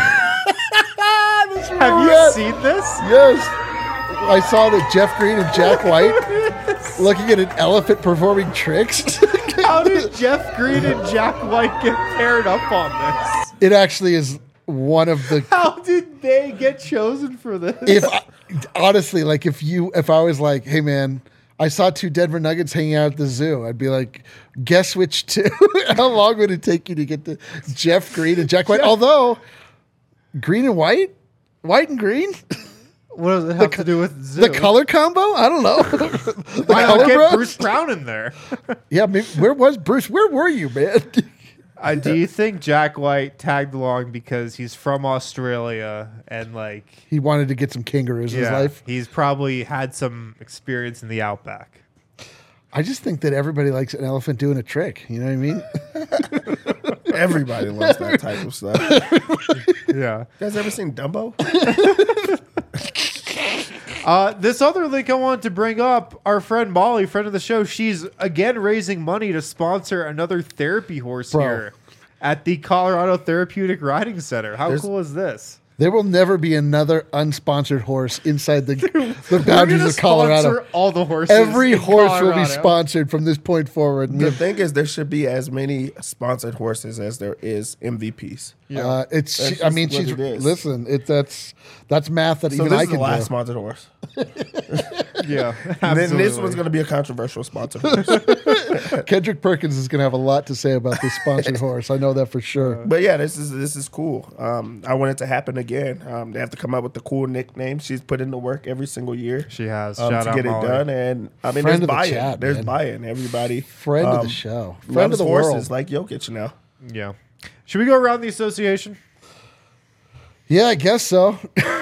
Have you Yes. seen this? Yes. I saw that Jeff Green and Jack White looking at an elephant performing tricks. How did Jeff Green and Jack White get paired up on this? It actually is one of the. How did they get chosen for this? If I, honestly, like if you, if I was like, hey man, I saw two Denver Nuggets hanging out at the zoo, I'd be like, guess which two? How long would it take you to get to Jeff Green and Jack White? Although Green and White, White and Green. What does it have to do with zoo? The color combo? I don't know. the Why color not get bros? Bruce Brown in there? Yeah, maybe, where was Bruce? Where were you, man? Uh, do you think Jack White tagged along because he's from Australia and like He wanted to get some kangaroos in his life. he's probably had some experience in the outback? I just think that everybody likes an elephant doing a trick. You know what I mean? Everybody loves that type of stuff. Yeah. You guys ever seen Dumbo? Uh, this other link I wanted to bring up, our friend Molly, friend of the show, she's again raising money to sponsor another therapy horse Bro. here at the Colorado Therapeutic Riding Center. How There's- cool is this? There will never be another unsponsored horse inside the, the We're boundaries gonna of Colorado. sponsor all the horses. Every in horse will be Colorado. sponsored from this point forward. The thing is, there should be as many sponsored horses as there is M V Ps. Uh, it's. That's She, I mean, just she's. what it is. Listen, it that's that's math that So even this I is the can last do. sponsored horse. Yeah, And then this absolutely. one's going to be a controversial sponsored horse. Kendrick Perkins is going to have a lot to say about this sponsored horse. I know that for sure. But yeah, this is this is cool. Um, I want it to happen again. Um, they have to come up with the cool nickname. She's put in the work every single year. She has. Um, Shout to out get Molly. it done, and I mean, Friend there's of the buy-in. chat, there's man. buy-in. Everybody, Friend of um, the show. Friend loves of the horses world. like Jokic now. Yeah. Should we go around the association? Yeah, I guess so.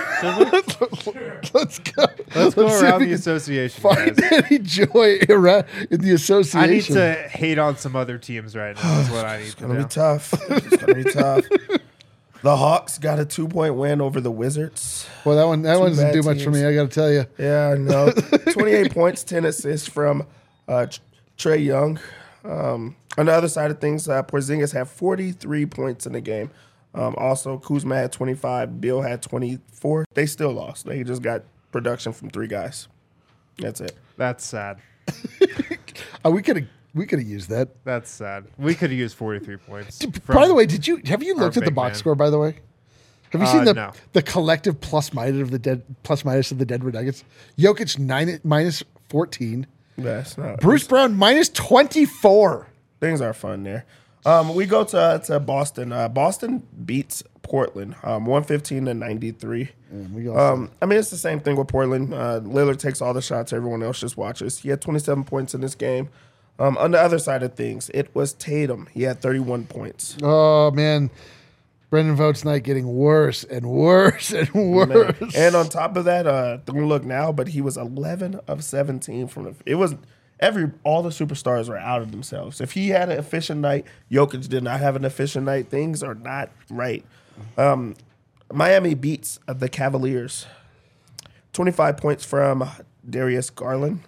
Let's go. Let's go see if around we the can association. Find guys. any joy around in the association. I need to hate on some other teams right now. That's what I need It's to gonna do. be tough. It's gonna be tough. The Hawks got a two-point win over the Wizards. Well, that one that Two one doesn't bad do much for teams. me. I got to tell you. Yeah, I know. twenty-eight points, ten assists from uh, Trey Young. Um, on the other side of things, uh, Porzingis had forty-three points in the game. Um, also, Kuzma had twenty-five. Bill had twenty-four. They still lost. They just got production from three guys. That's it. That's sad. Oh, we could have we could have used that. That's sad. We could have used forty-three points. By from- the way, did you have you our looked at the big box man. score? By the way, have you Uh, seen the no. the collective plus minus of the dead plus minus of the Denver Nuggets? Jokic nine minus fourteen. That's not. Bruce Brown minus twenty four. Things are fun there. Um, we go to to Boston. Uh, Boston beats Portland, um, one fifteen to ninety-three. We go. Um, I mean, it's the same thing with Portland. Uh, Lillard takes all the shots. Everyone else just watches. He had twenty-seven points in this game. Um, on the other side of things, it was Tatum. He had thirty-one points. oh man, Brendan Vogt's night getting worse and worse and worse. Man. And on top of that, uh, don't look now, but he was eleven of seventeen from the. It was every all the superstars were out of themselves. If he had an efficient night, Jokic did not have an efficient night. Things are not right. Um, Miami beats the Cavaliers. twenty-five points from Darius Garland.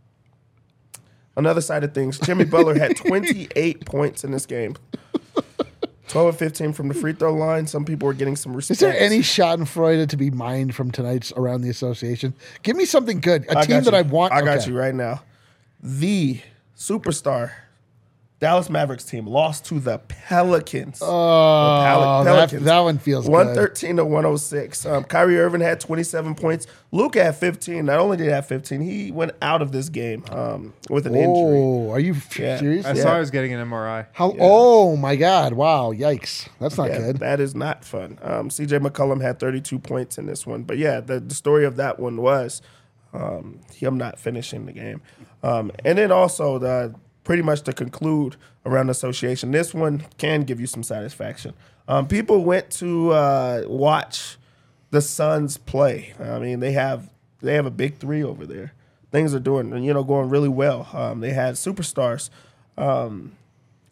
On the other side of things, Jimmy Butler had twenty-eight points in this game. twelve of fifteen from the free throw line. Some people are getting some respect. Is there any Schadenfreude to be mined from tonight's around the association? Give me something good. A I team got that you. I want. I got okay. you right now. The superstar Dallas Mavericks team lost to the Pelicans. Oh, Pel- that, Pelicans. that one feels one good. thirteen to one oh six. Um, Kyrie Irving had twenty-seven points. Luke had fifteen. Not only did he have fifteen, he went out of this game um, with an injury. Oh, are you Yeah. serious? I Yeah. saw he was getting an M R I. How? Oh my God! Wow! Yikes! That's not Yeah, good. that is not fun. Um, C J McCollum had thirty-two points in this one. But yeah, the, the story of that one was um, him not finishing the game. Um, and then also, the, pretty much to conclude around association, this one can give you some satisfaction. Um, people went to uh, watch the Suns play. I mean, they have they have a big three over there. Things are doing, you know, going really well. Um, they had superstars. Um,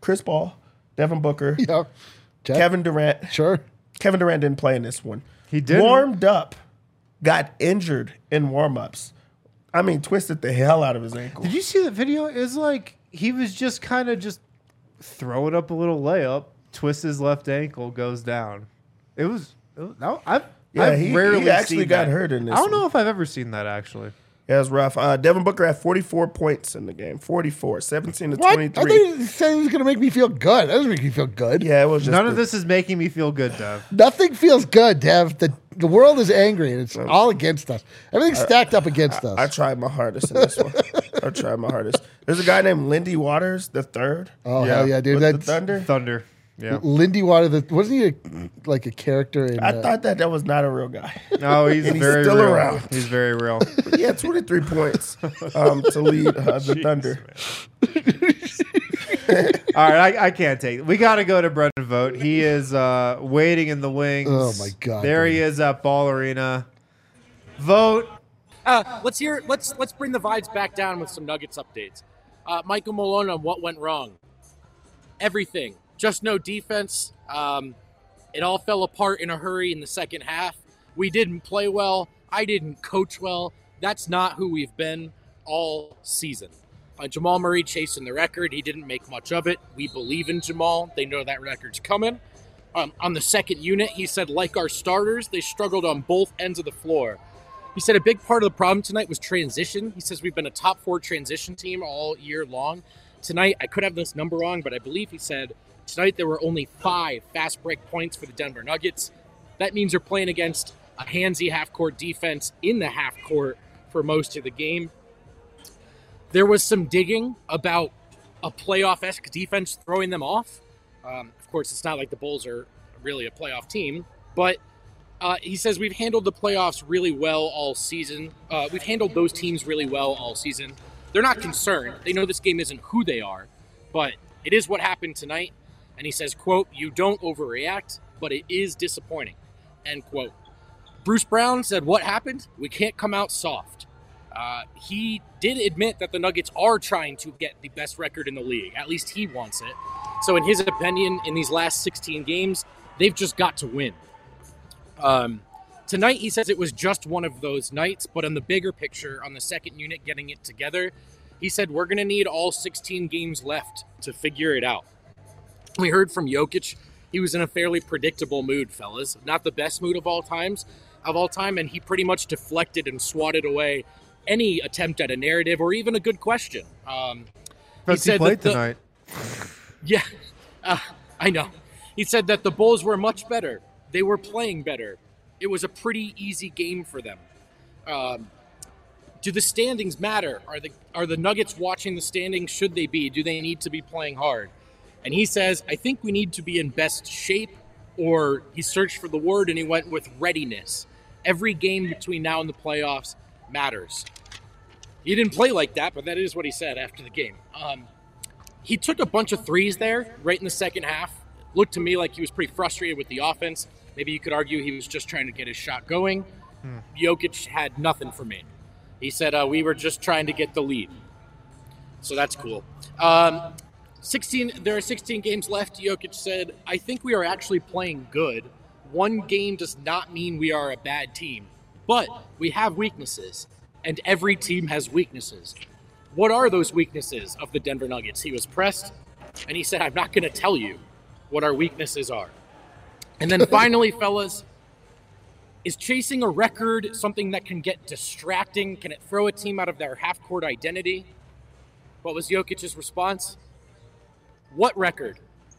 Chris Paul, Devin Booker, Yeah. Jeff? Kevin Durant. Sure. Kevin Durant didn't play in this one. He didn't. Warmed up, got injured in warm-ups. I mean, twisted the hell out of his ankle. Did you see the video? It was like he was just kind of just throwing up a little layup, twists his left ankle, goes down. It was. It was no, I've, Yeah, I've he- rarely he actually seen got that. hurt in this I don't one. know if I've ever seen that actually. Yeah, it was rough. Uh, Devin Booker had forty-four points in the game. forty-four, seventeen to What? I twenty-three. thought you said it was going to make me feel good. That doesn't make me feel good. Yeah, it was just None the- of this is making me feel good, Dev. Nothing feels good, Dev. The, the world is angry, and it's all against us. Everything's stacked up against us. I tried my hardest in this one. I tried my hardest. There's a guy named Lindy Waters, the third. oh, Yeah. hell yeah, dude. with the That's Thunder. Thunder. Yeah. Lindy Water. The, wasn't he a, like a character in... I uh, thought that that was not a real guy. No, he's And he's very still real. around. He's very real. He had twenty-three points um, to lead uh, the Jeez, Thunder. All right, I, I can't take it. We got to go to Brendan Vogt. He is uh, waiting in the wings. Oh, my God, There he Brendan. is at Ball Arena. Vote. Uh, let's hear. Let's let's bring the vibes back down with some Nuggets updates. Uh, Michael Malone on what went wrong. Everything. Just no defense. Um, it all fell apart in a hurry in the second half. We didn't play well. I didn't coach well. That's not who we've been all season. Uh, Jamal Murray chasing the record. He didn't make much of it. We believe in Jamal. They know that record's coming. Um, on the second unit, he said, like our starters, they struggled on both ends of the floor. He said a big part of the problem tonight was transition. He says we've been a top four transition team all year long. Tonight, I could have this number wrong, but I believe he said tonight there were only five fast break points for the Denver Nuggets. That means you're playing against a handsy half-court defense in the half-court for most of the game. There was some digging about a playoff-esque defense throwing them off. Um, of course, it's not like the Bulls are really a playoff team, but uh, he says we've handled the playoffs really well all season. Uh, we've handled those teams really well all season. They're not concerned. They know this game isn't who they are, but it is what happened tonight. And he says, quote, you don't overreact, but it is disappointing, end quote. Bruce Brown said, what happened? We can't come out soft. Uh, he did admit that the Nuggets are trying to get the best record in the league. At least he wants it. So in his opinion, in these last sixteen games, they've just got to win. Um, tonight, he says it was just one of those nights, but on the bigger picture, on the second unit getting it together, he said we're going to need all sixteen games left to figure it out. We heard from Jokic. He was in a fairly predictable mood, fellas. Not the best mood of all times, of all time, and he pretty much deflected and swatted away any attempt at a narrative or even a good question. Um, He said played that the- tonight. yeah, uh, I know. He said that the Bulls were much better. They were playing better. It was a pretty easy game for them. Um, do the standings matter? Are the are the Nuggets watching the standings? Should they be? Do they need to be playing hard? And he says, I think we need to be in best shape, or he searched for the word and he went with readiness. Every game between now and the playoffs matters. He didn't play like that, but that is what he said after the game. Um, he took a bunch of threes there right in the second half. Looked to me like he was pretty frustrated with the offense. Maybe you could argue he was just trying to get his shot going. Hmm. Jokic had nothing for me. He said, uh, we were just trying to get the lead. So that's cool. Um, sixteen. There are sixteen games left, Jokic said. I think we are actually playing good. One game does not mean we are a bad team. But we have weaknesses. And every team has weaknesses. What are those weaknesses of the Denver Nuggets? He was pressed, and he said, I'm not going to tell you what our weaknesses are. And then finally, fellas, is chasing a record something that can get distracting? Can it throw a team out of their half-court identity? What was Jokic's response? What record?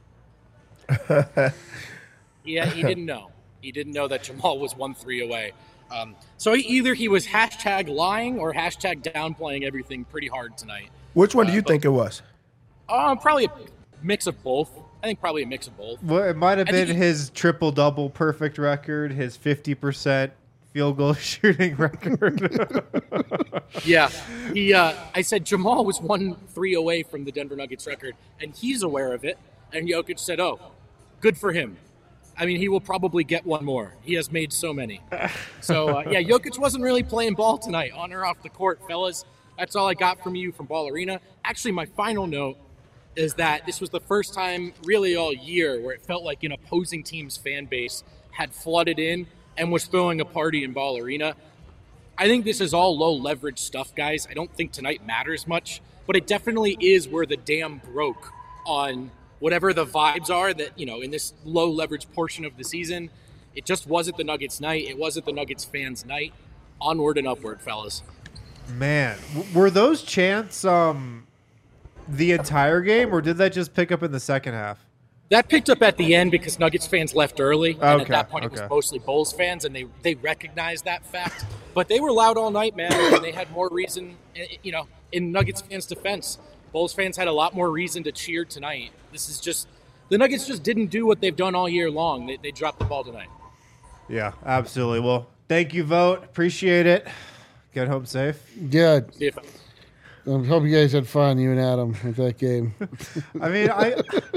Yeah, he didn't know. He didn't know that Jamal was one three away. Um, so he, either he was hashtag lying or hashtag downplaying everything pretty hard tonight. Which one do Uh, you but- think it was? Uh, probably a mix of both. I think probably a mix of both. Well, it might have I been think- his triple double perfect record, his fifty percent field goal shooting record. Yeah, he. Uh, I said Jamal was one three away from the Denver Nuggets record, and he's aware of it. And Jokic said, "Oh, good for him. I mean, he will probably get one more. He has made so many." So uh, yeah, Jokic wasn't really playing ball tonight, on or off the court, fellas. That's all I got from you from Ball Arena. Actually, my final note is that this was the first time really all year where it felt like an opposing team's fan base had flooded in and was throwing a party in Ball Arena. I think this is all low leverage stuff, guys. I don't think tonight matters much, but it definitely is where the dam broke on whatever the vibes are that, you know, in this low leverage portion of the season. It just wasn't the Nuggets night. It wasn't the Nuggets fans night. Onward and upward, fellas. Man, w- were those chants um, the entire game, or did that just pick up in the second half? That picked up at the end because Nuggets fans left early, and Okay, at that point okay. it was mostly Bulls fans, and they they recognized that fact. But they were loud all night, man, and they had more reason, you know, in Nuggets fans' defense. Bulls fans had a lot more reason to cheer tonight. This is just, the Nuggets just didn't do what they've done all year long. They, they dropped the ball tonight. Yeah, absolutely. Well, thank you, Vote. Appreciate it. Get home safe. Yeah. See if- I hope you guys had fun, you and Adam, with that game. I mean, I,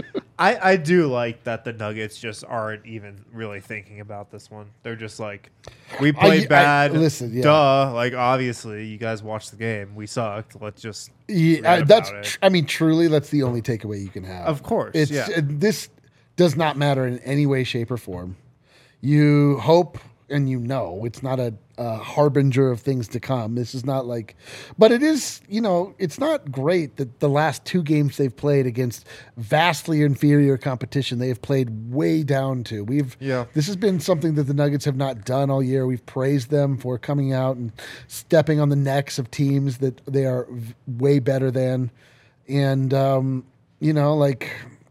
I I do like that the Nuggets just aren't even really thinking about this one. They're just like, we played I- I- bad. listen, yeah. Duh. Like, obviously, you guys watched the game. We sucked. Let's just Yeah, read uh, that's. about tr- it. I mean, truly, that's the only takeaway you can have. Of course, it's yeah. uh, this does not matter in any way, shape, or form. You hope and you know it's not a, a harbinger of things to come. This is not like, but it is. You know, it's not great that the last two games they've played against vastly inferior competition they have played way down to. We've Yeah. This has been something that the Nuggets have not done all year. We've praised them for coming out and stepping on the necks of teams that they are v- way better than. And, um, you know, like,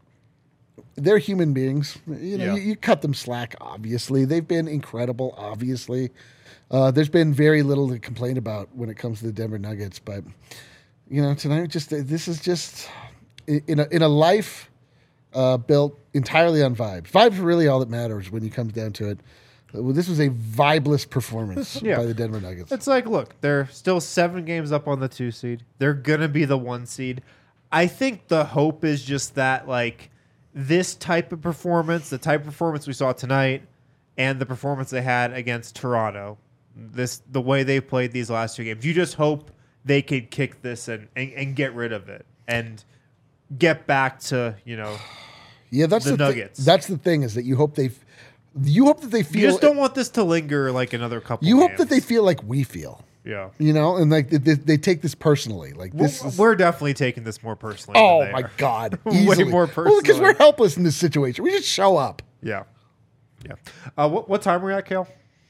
they're human beings. You know, Yeah. you, you cut them slack, obviously. They've been incredible, obviously. Uh, there's been very little to complain about when it comes to the Denver Nuggets. But, you know, tonight, just this is just, in a, in a life uh, built entirely on vibes. Vibes are really all that matters when it comes down to it. Well, this was a vibeless performance Yeah. by the Denver Nuggets. It's like, look, they're still seven games up on the two seed. They're gonna be the one seed. I think the hope is just that, like, this type of performance, the type of performance we saw tonight, and the performance they had against Toronto, this the way they played these last two games, you just hope they could kick this and, and, and get rid of it and get back to, you know, Yeah, that's the the, thi- Nuggets. that's the thing is that you hope they, you hope that they feel. you just don't want this to linger like another couple. You hope games. that they feel like we feel. yeah. You know, and like they, they take this personally. Like this We're, is. we're definitely taking this more personally. Oh than they my are. God! Way Easily. more Well, because personally. we're helpless in this situation. We just show up. Yeah, yeah. Uh, what what time are we at, Kale?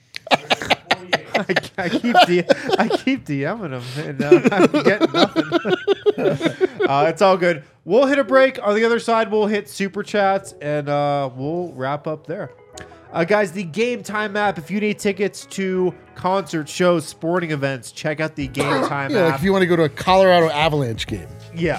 I, I keep D- I keep DMing him and uh, I'm getting nothing. uh, it's all good. We'll hit a break. On the other side, we'll hit super chats and uh, we'll wrap up there. Uh, guys, the Game Time app. If you need tickets to concerts, shows, sporting events, check out the Game Time Yeah, app. like if you want to go to a Colorado Avalanche game. Yeah.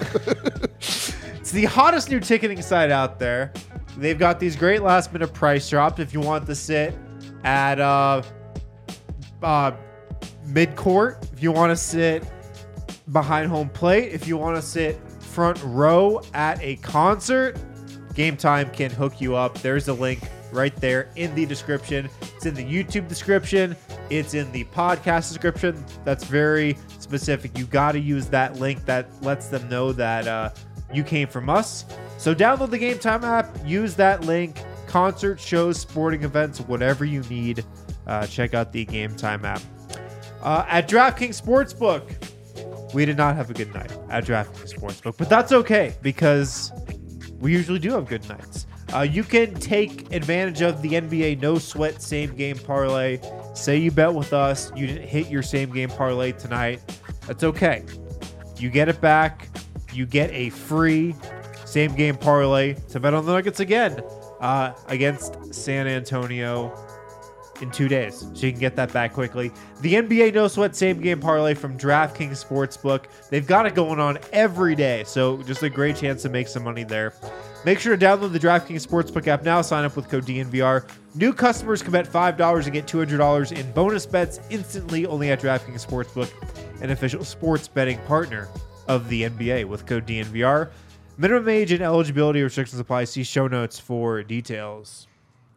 It's the hottest new ticketing site out there. They've got these great last minute price drops if you want to sit at uh, uh, mid court, if you want to sit behind home plate, if you want to sit front row at a concert, Game Time can hook you up. There's a link right there in the description. It's in the YouTube description. It's in the podcast description. That's very specific. You got to use that link that lets them know that uh, you came from us. So download the Game Time app. Use that link. Concert, shows, sporting events, whatever you need. Uh, check out the Game Time app. Uh, at DraftKings Sportsbook, we did not have a good night at DraftKings Sportsbook, but that's okay because we usually do have good nights. Uh, you can take advantage of the N B A No Sweat Same Game Parlay. Say you bet with us, you didn't hit your same game parlay tonight. That's okay. You get it back. You get a free same game parlay to bet on the Nuggets again uh, against San Antonio in two days. So you can get that back quickly. The N B A No Sweat Same Game Parlay from DraftKings Sportsbook. They've got it going on every day. So just a great chance to make some money there. Make sure to download the DraftKings Sportsbook app now. Sign up with code D N V R. New customers can bet five dollars and get two hundred dollars in bonus bets instantly only at DraftKings Sportsbook, an official sports betting partner of the N B A with code D N V R. Minimum age and eligibility restrictions apply. See show notes for details.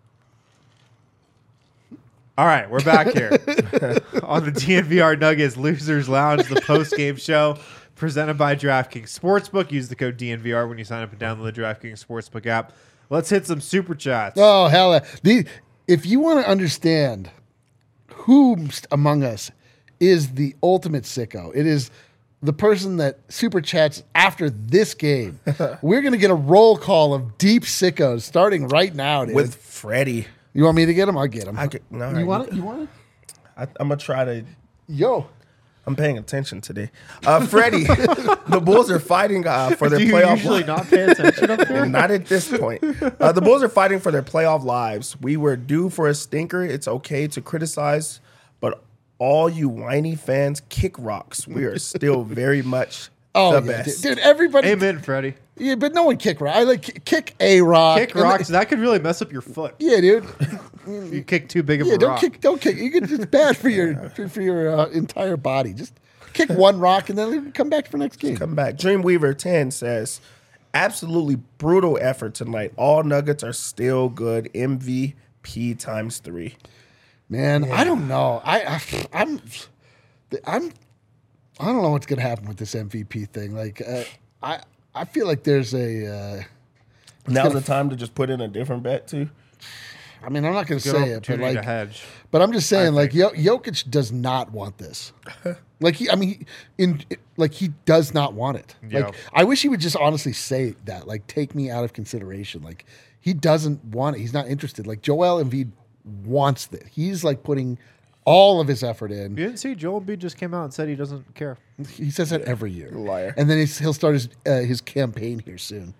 All right, we're back here on the D N V R Nuggets Losers Lounge, the post-game show. presented by DraftKings Sportsbook. Use the code D N V R when you sign up and download the DraftKings Sportsbook app. Let's hit some super chats. Oh, hell. yeah. The, if you want to understand who among us is the ultimate sicko, it is the person that super chats after this game. We're going to get a roll call of deep sickos starting right now, dude. With Freddie. You want me to get him? I'll get him. I could, no, you want it? You want it? I, I'm going to try to. Yo. I'm paying attention today. Uh, Freddie, the Bulls are fighting uh, for their Do you playoff usually li- not pay attention up there? Not at this point. Uh, the Bulls are fighting for their playoff lives. We were due for a stinker. It's okay to criticize, but all you whiny fans kick rocks. We are still very much Oh, the yeah, best. dude, dude, everybody. Amen, Freddie. Yeah, but no one kick rock. I like kick a rock. Kick and rocks. then- That could really mess up your foot. yeah, dude. If you kick too big of Yeah, a don't rock. kick. Don't kick. You can, it's bad for your for, for your uh, entire body. Just kick one rock and then come back for next game. Come back. Dreamweaver ten says, absolutely brutal effort tonight. All Nuggets are still good. M V P times three. Man, I don't know. I, I I'm I'm I don't know what's gonna happen with this M V P thing. Like uh, I I feel like there's a. Uh, Now's the time to just put in a different bet too. I mean, I'm not gonna Good say it, but opportunity to like, hedge. but I'm just saying, I like, Yo- Jokic does not want this. Like he, I mean, in like he does not want it. Yeah. Like I wish he would just honestly say that. Like, take me out of consideration. Like he doesn't want it. He's not interested. Like Joel Embiid wants this. He's like putting all of his effort in. You didn't see Joel Embiid just came out and said he doesn't care. He says that every year. Liar. And then he's, he'll start his uh, his campaign here soon.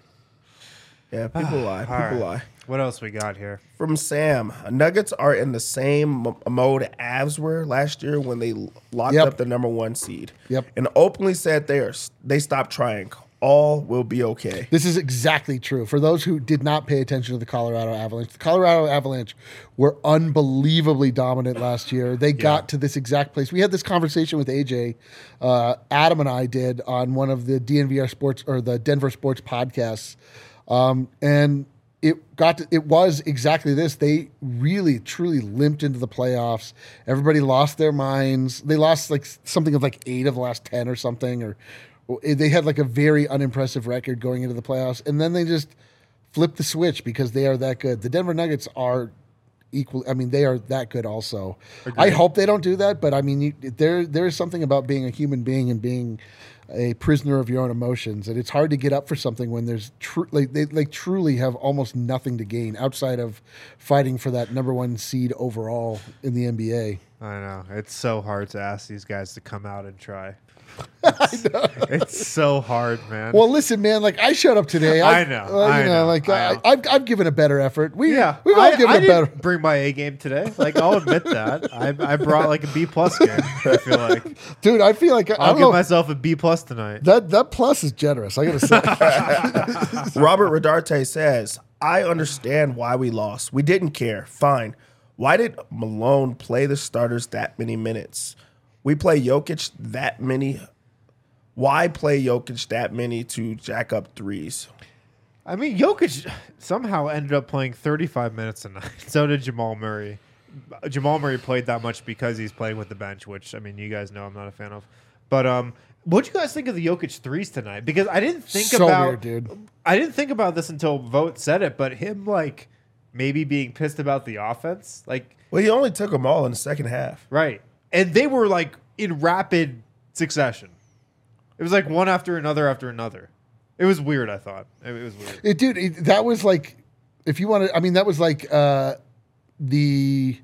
Yeah, people lie. People All right. lie. What else we got here? From Sam, Nuggets are in the same m- mode Avs were last year when they locked Yep. up the number one seed. Yep. And openly said they are they stopped trying. All will be okay. This is exactly true. For those who did not pay attention to the Colorado Avalanche, the Colorado Avalanche were unbelievably dominant last year. They got to this exact place. We had this conversation with A J, uh, Adam and I did on one of the D N V R Sports or the Denver Sports podcasts, um, and it got to, it was exactly this. They really truly limped into the playoffs. Everybody lost their minds. They lost like something of like eight of the last ten or something, or they had like a very unimpressive record going into the playoffs, and then they just flipped the switch because they are that good. The Denver Nuggets are equal. I mean, they are that good also. I hope they don't do that, but I mean, you, there there is something about being a human being and being a prisoner of your own emotions, and it's hard to get up for something when there's tr- like they like truly have almost nothing to gain outside of fighting for that number one seed overall in the N B A. I know. It's so hard to ask these guys to come out and try. It's, it's so hard, man. Well, listen, man. Like I showed up today. I know, uh, I you know, know, like I I know. I've, I've given a better effort. We yeah, we've all I, given I a didn't better. bring my A game today. Like I'll admit that. I, I brought like a B plus game. I feel like Dude, I feel like I, I I'll don't give know. myself a B plus tonight. That that plus is generous. I gotta say. Robert Rodarte says, I understand why we lost. We didn't care. Fine. Why did Malone play the starters that many minutes? We play Jokic that many. Why play Jokic that many to jack up threes? I mean, Jokic somehow ended up playing thirty-five minutes a night. So did Jamal Murray. Jamal Murray played that much because he's playing with the bench, which, I mean, you guys know I'm not a fan of. But um, what'd you guys think of the Jokic threes tonight? Because I didn't think So about weird, dude. I didn't think about this until Vogt said it, but him like maybe being pissed about the offense, like Well, he only took them all in the second half. right, and they were like in rapid succession. It was like one after another after another. It was weird. I thought it was weird. It, dude, it, that was like, if you want to, I mean, that was like uh, the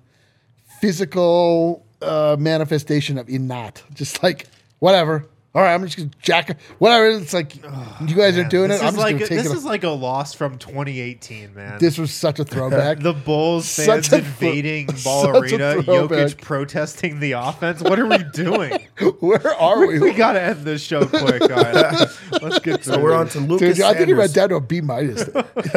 physical uh, manifestation of innat. Just like, whatever. All right, I'm just going to jack, whatever. It's like, you guys are doing This it. is I'm just like going to take this it. is like a loss from twenty eighteen, man. This was such a throwback. The Bulls fans Such a thro- invading such Ball a Arena, throwback. Jokic protesting the offense. What are we doing? Where are we? we got to end this show quick. All right. Let's get to So we're on to Lucas Dude, I think he went Sanders. down to a B minus.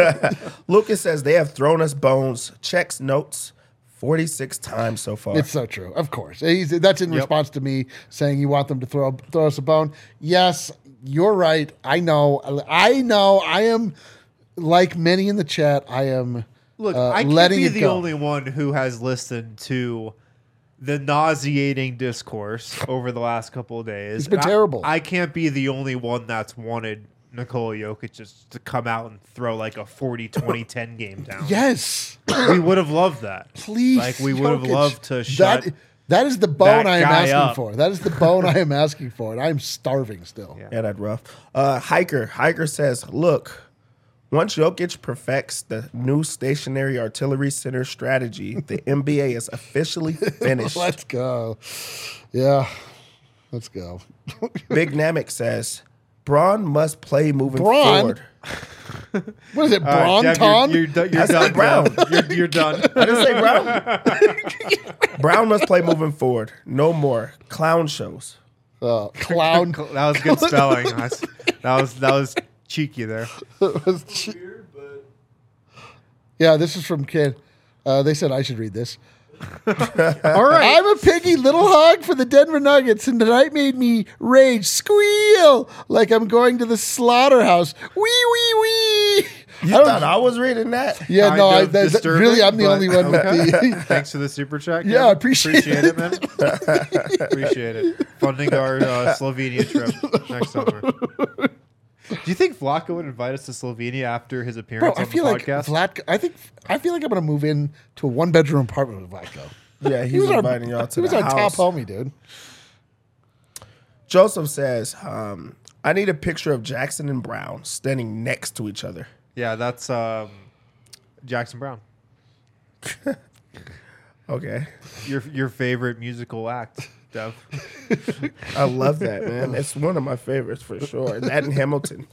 Lucas says they have thrown us bones. Checks notes forty-six times so far. It's so true. Of course. He's, that's in Yep. response to me saying you want them to throw throw us a bone. Yes, you're right. I know. I know. I am like many in the chat. I am Look, uh, I can't letting be it the go. only one who has listened to the nauseating discourse over the last couple of days. It's been And I- terrible. I can't be the only one that's wanted Nikola Jokic just to come out and throw like a forty twenty ten game down. Yes. We would have loved that. Please. Like, we would have Jokic. loved to shut That, that is the bone that I am guy asking up. for. That is the bone I am asking for. And I'm starving still. Yeah. Yeah, that's rough. Uh, Hiker. Hiker says, look, once Jokic perfects the new stationary artillery center strategy, the N B A is officially finished. Let's go. Yeah. Let's go. Big Namek says, Braun must play moving Braun? forward. What is it, All right, Dev, Bronton? You're, you're, do- you're I said done. Brown. Dev. You're, you're done. I didn't say Brown. Brown must play moving forward. No more clown shows. Uh, clown. That was good spelling. That's- That was that was cheeky there. Yeah, this is from Kid. Uh, they said I should read this. All right. I'm a piggy little hog for the Denver Nuggets, and tonight made me rage, squeal like I'm going to the slaughterhouse. Wee wee wee. You I don't- thought I was reading that? Yeah, Kind no, I, of that, that- disturbing, really, I'm the but only one with the. Thanks for the super chat. Yeah, Kevin. I appreciate appreciate it, man. Appreciate it. Funding our uh, Slovenia trip next summer. Do you think Vlaco would invite us to Slovenia after his Bro, appearance I on feel the like podcast? Vlatko. I think I feel like I'm gonna move in to a one bedroom apartment with Vlatko. Yeah, He he's was our, inviting y'all to he was the our house. top homie, dude. Joseph says, um, I need a picture of Jackson and Brown standing next to each other. Yeah, that's um, Jackson Brown, Okay. your your favorite musical act, Dev. I love that, man. It's one of my favorites for sure. That and Hamilton.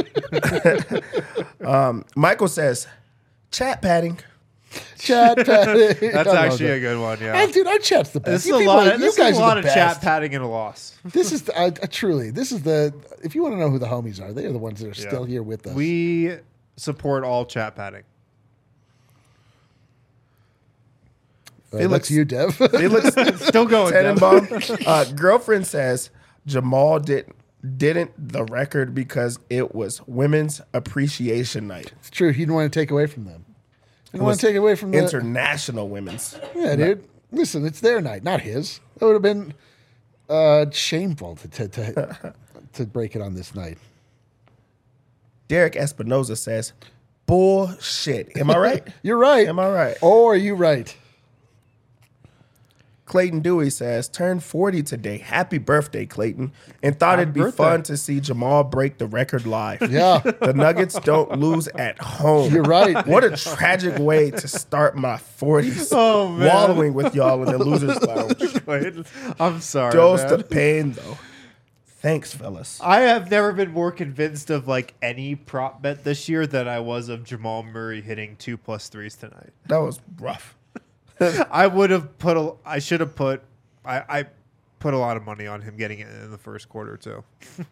um, Michael says, chat padding. Chat padding. That's I love actually that. a good one. Yeah. Ah, dude, our chat's the best. This is You a people- lot. you Of, this guys is a are lot the of best. chat padding and a loss. This is the, I, I truly. This is the. If you want to know who the homies are, they are the ones that are Yeah. still here with us. We support all chat padding. Uh, Felix- that's you, Dev. Felix Still going. Dev. Tenenbaum. Uh, girlfriend says Jamal didn't didn't the record because it was Women's Appreciation Night. It's true. He didn't want to take away from them. He didn't was want to take away from the. International Women's. Yeah, dude. Listen, it's their night, not his. It would have been uh, shameful to to, to to break it on this night. Derek Espinoza says, bullshit. Am I right? You're right. Am I right? Or are you right? Clayton Dewey says, turned forty today. Happy birthday, Clayton. And thought Happy it'd be birthday. fun to see Jamal break the record live. Yeah, The Nuggets don't lose at home. you're right. What a tragic way to start my forties. Oh, man. Wallowing with y'all in the loser's lounge. I'm sorry. Dose man. the pain, though. Thanks, fellas. I have never been more convinced of like any prop bet this year than I was of Jamal Murray hitting two plus threes tonight. That was rough. I would have put a. I should have put. I, I put a lot of money on him getting it in the first quarter too.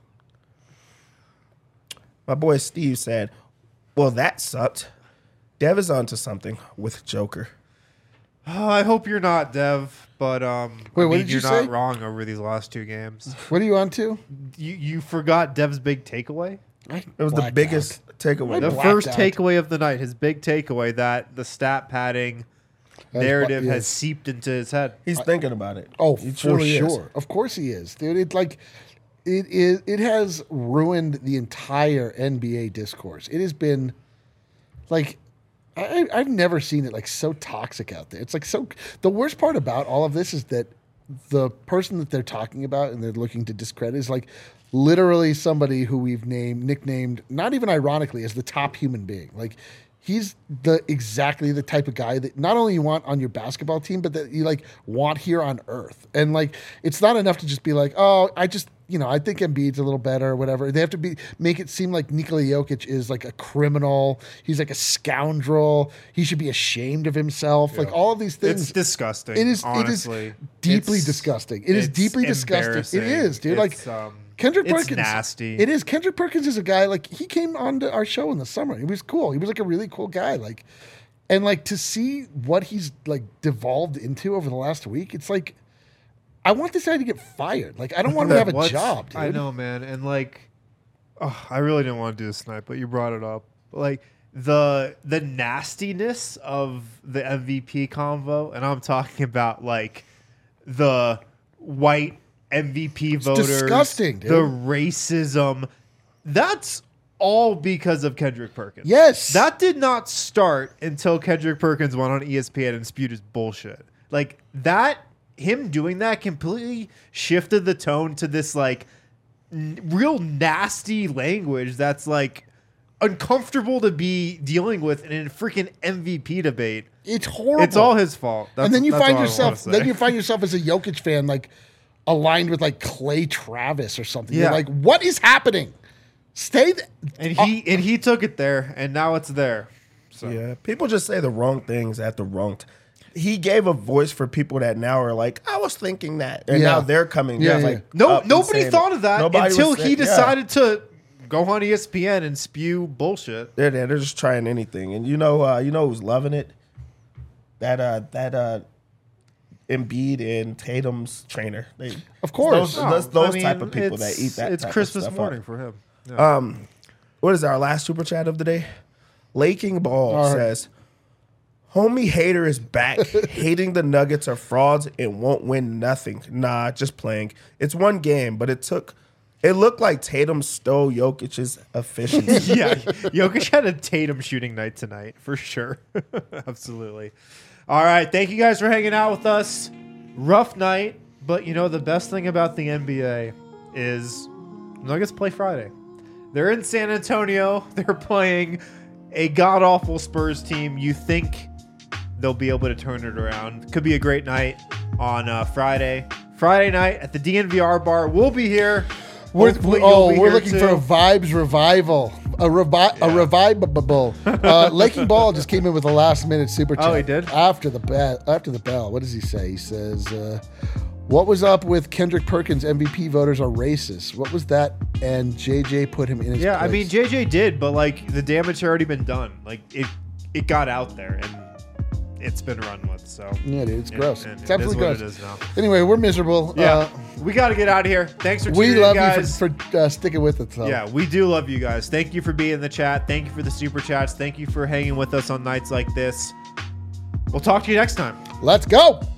My boy Steve said, well, that sucked. Dev is onto something with Joker. Oh, I hope you're not, Dev. But um, Wait, I what mean, did you you're not say? wrong over these last two games. What are you on to? You you forgot Dev's big takeaway. I It was the blacked biggest out. takeaway. The blacked first out. takeaway of the night, his big takeaway, that the stat padding That's narrative bu- has yes. seeped into his head. He's thinking about it. Oh, He for truly is. sure. Of course he is, dude. It like it is. It has ruined the entire N B A discourse. It has been like I, I've never seen it like so toxic out there. It's like so. The worst part about all of this is that the person that they're talking about and they're looking to discredit is like literally somebody who we've named, nicknamed, not even ironically, as the top human being. Like he's the exactly the type of guy that not only you want on your basketball team, but that you like want here on Earth. And like it's not enough to just be like, oh, I just you know I think Embiid's a little better or whatever. They have to be make it seem like Nikola Jokic is like a criminal. He's like a scoundrel. He should be ashamed of himself. Like all of these things. It's disgusting. It is. honestly. It is deeply It's- disgusting. It is it's deeply disgusting. embarrassing. It is, dude. It's, like um, Kendrick it's Perkins. nasty. It is. Kendrick Perkins is a guy like he came on to our show in the summer. He was cool. He was like a really cool guy. Like, and like to see what he's like devolved into over the last week. It's like I want this guy to get fired. Like I don't want him to have a What's- job, dude. I know, man, and like, oh, I really didn't want to do this tonight, but you brought it up. Like the the nastiness of the M V P convo, and I'm talking about like the white M V P voters, disgusting, dude. the racism. That's all because of Kendrick Perkins. Yes. That did not start until Kendrick Perkins went on E S P N and spewed his bullshit. Like that, him doing that completely shifted the tone to this like n- real nasty language that's like uncomfortable to be dealing with in a freaking M V P debate. It's horrible. It's all his fault. That's, and then you that's find all I yourself, wanna say. then you find yourself as a Jokic fan, like aligned with like Clay Travis or something. Yeah. You're like, what is happening? Stay th- and he and he took it there, and now it's there. So. Yeah, people just say the wrong things at the wrong time. He gave a voice for people that now are like, I was thinking that. And Yeah. now they're coming. Yeah, Yeah, yeah. like No, up and nobody saying thought it. of that Nobody until was he saying- yeah. decided to go on E S P N and spew bullshit. They're there. They're just trying anything. And you know, uh, you know who's loving it? That uh, that uh, Embiid and Tatum's trainer. They, Of course. those, those, those I mean, type of people that it's- eat that. It's type of Christmas stuff morning up. for him. Yeah. Um, what is our last super chat of the day? Laking Ball All right. says, "Homie hater is back. Hating the Nuggets are frauds and won't win nothing. Nah, just playing. It's one game, but it took. It looked like Tatum stole Jokic's efficiency. yeah, Jokic had a Tatum shooting night tonight for sure. Absolutely. All right, thank you guys for hanging out with us. Rough night, but you know the best thing about the N B A is Nuggets play Friday. They're in San Antonio. They're playing a god awful Spurs team. You think they'll be able to turn it around? Could be a great night on uh, Friday. Friday night at the D N V R bar. We'll be here. We're, Hopefully oh, you'll be we're here looking too. for a vibes revival. A, revi- a revivable. Uh, Laking Ball just came in with a last minute super chat. Oh, he did? After the bell. After the bell. What does he say? He says, uh, what was up with Kendrick Perkins M V P voters are racist? What was that? And J J put him in his Yeah, place. I mean J J did, but like the damage had already been done. Like it, it got out there and it's been run with. So Yeah, dude, it's and- gross. and It's it absolutely is what gross. It is now. Anyway, we're miserable. Yeah, Uh, we got to get out of here. Thanks for we tuning love in, guys. you for, for uh, sticking with us. So. Yeah, we do love you guys. Thank you for being in the chat. Thank you for the super chats. Thank you for hanging with us on nights like this. We'll talk to you next time. Let's go.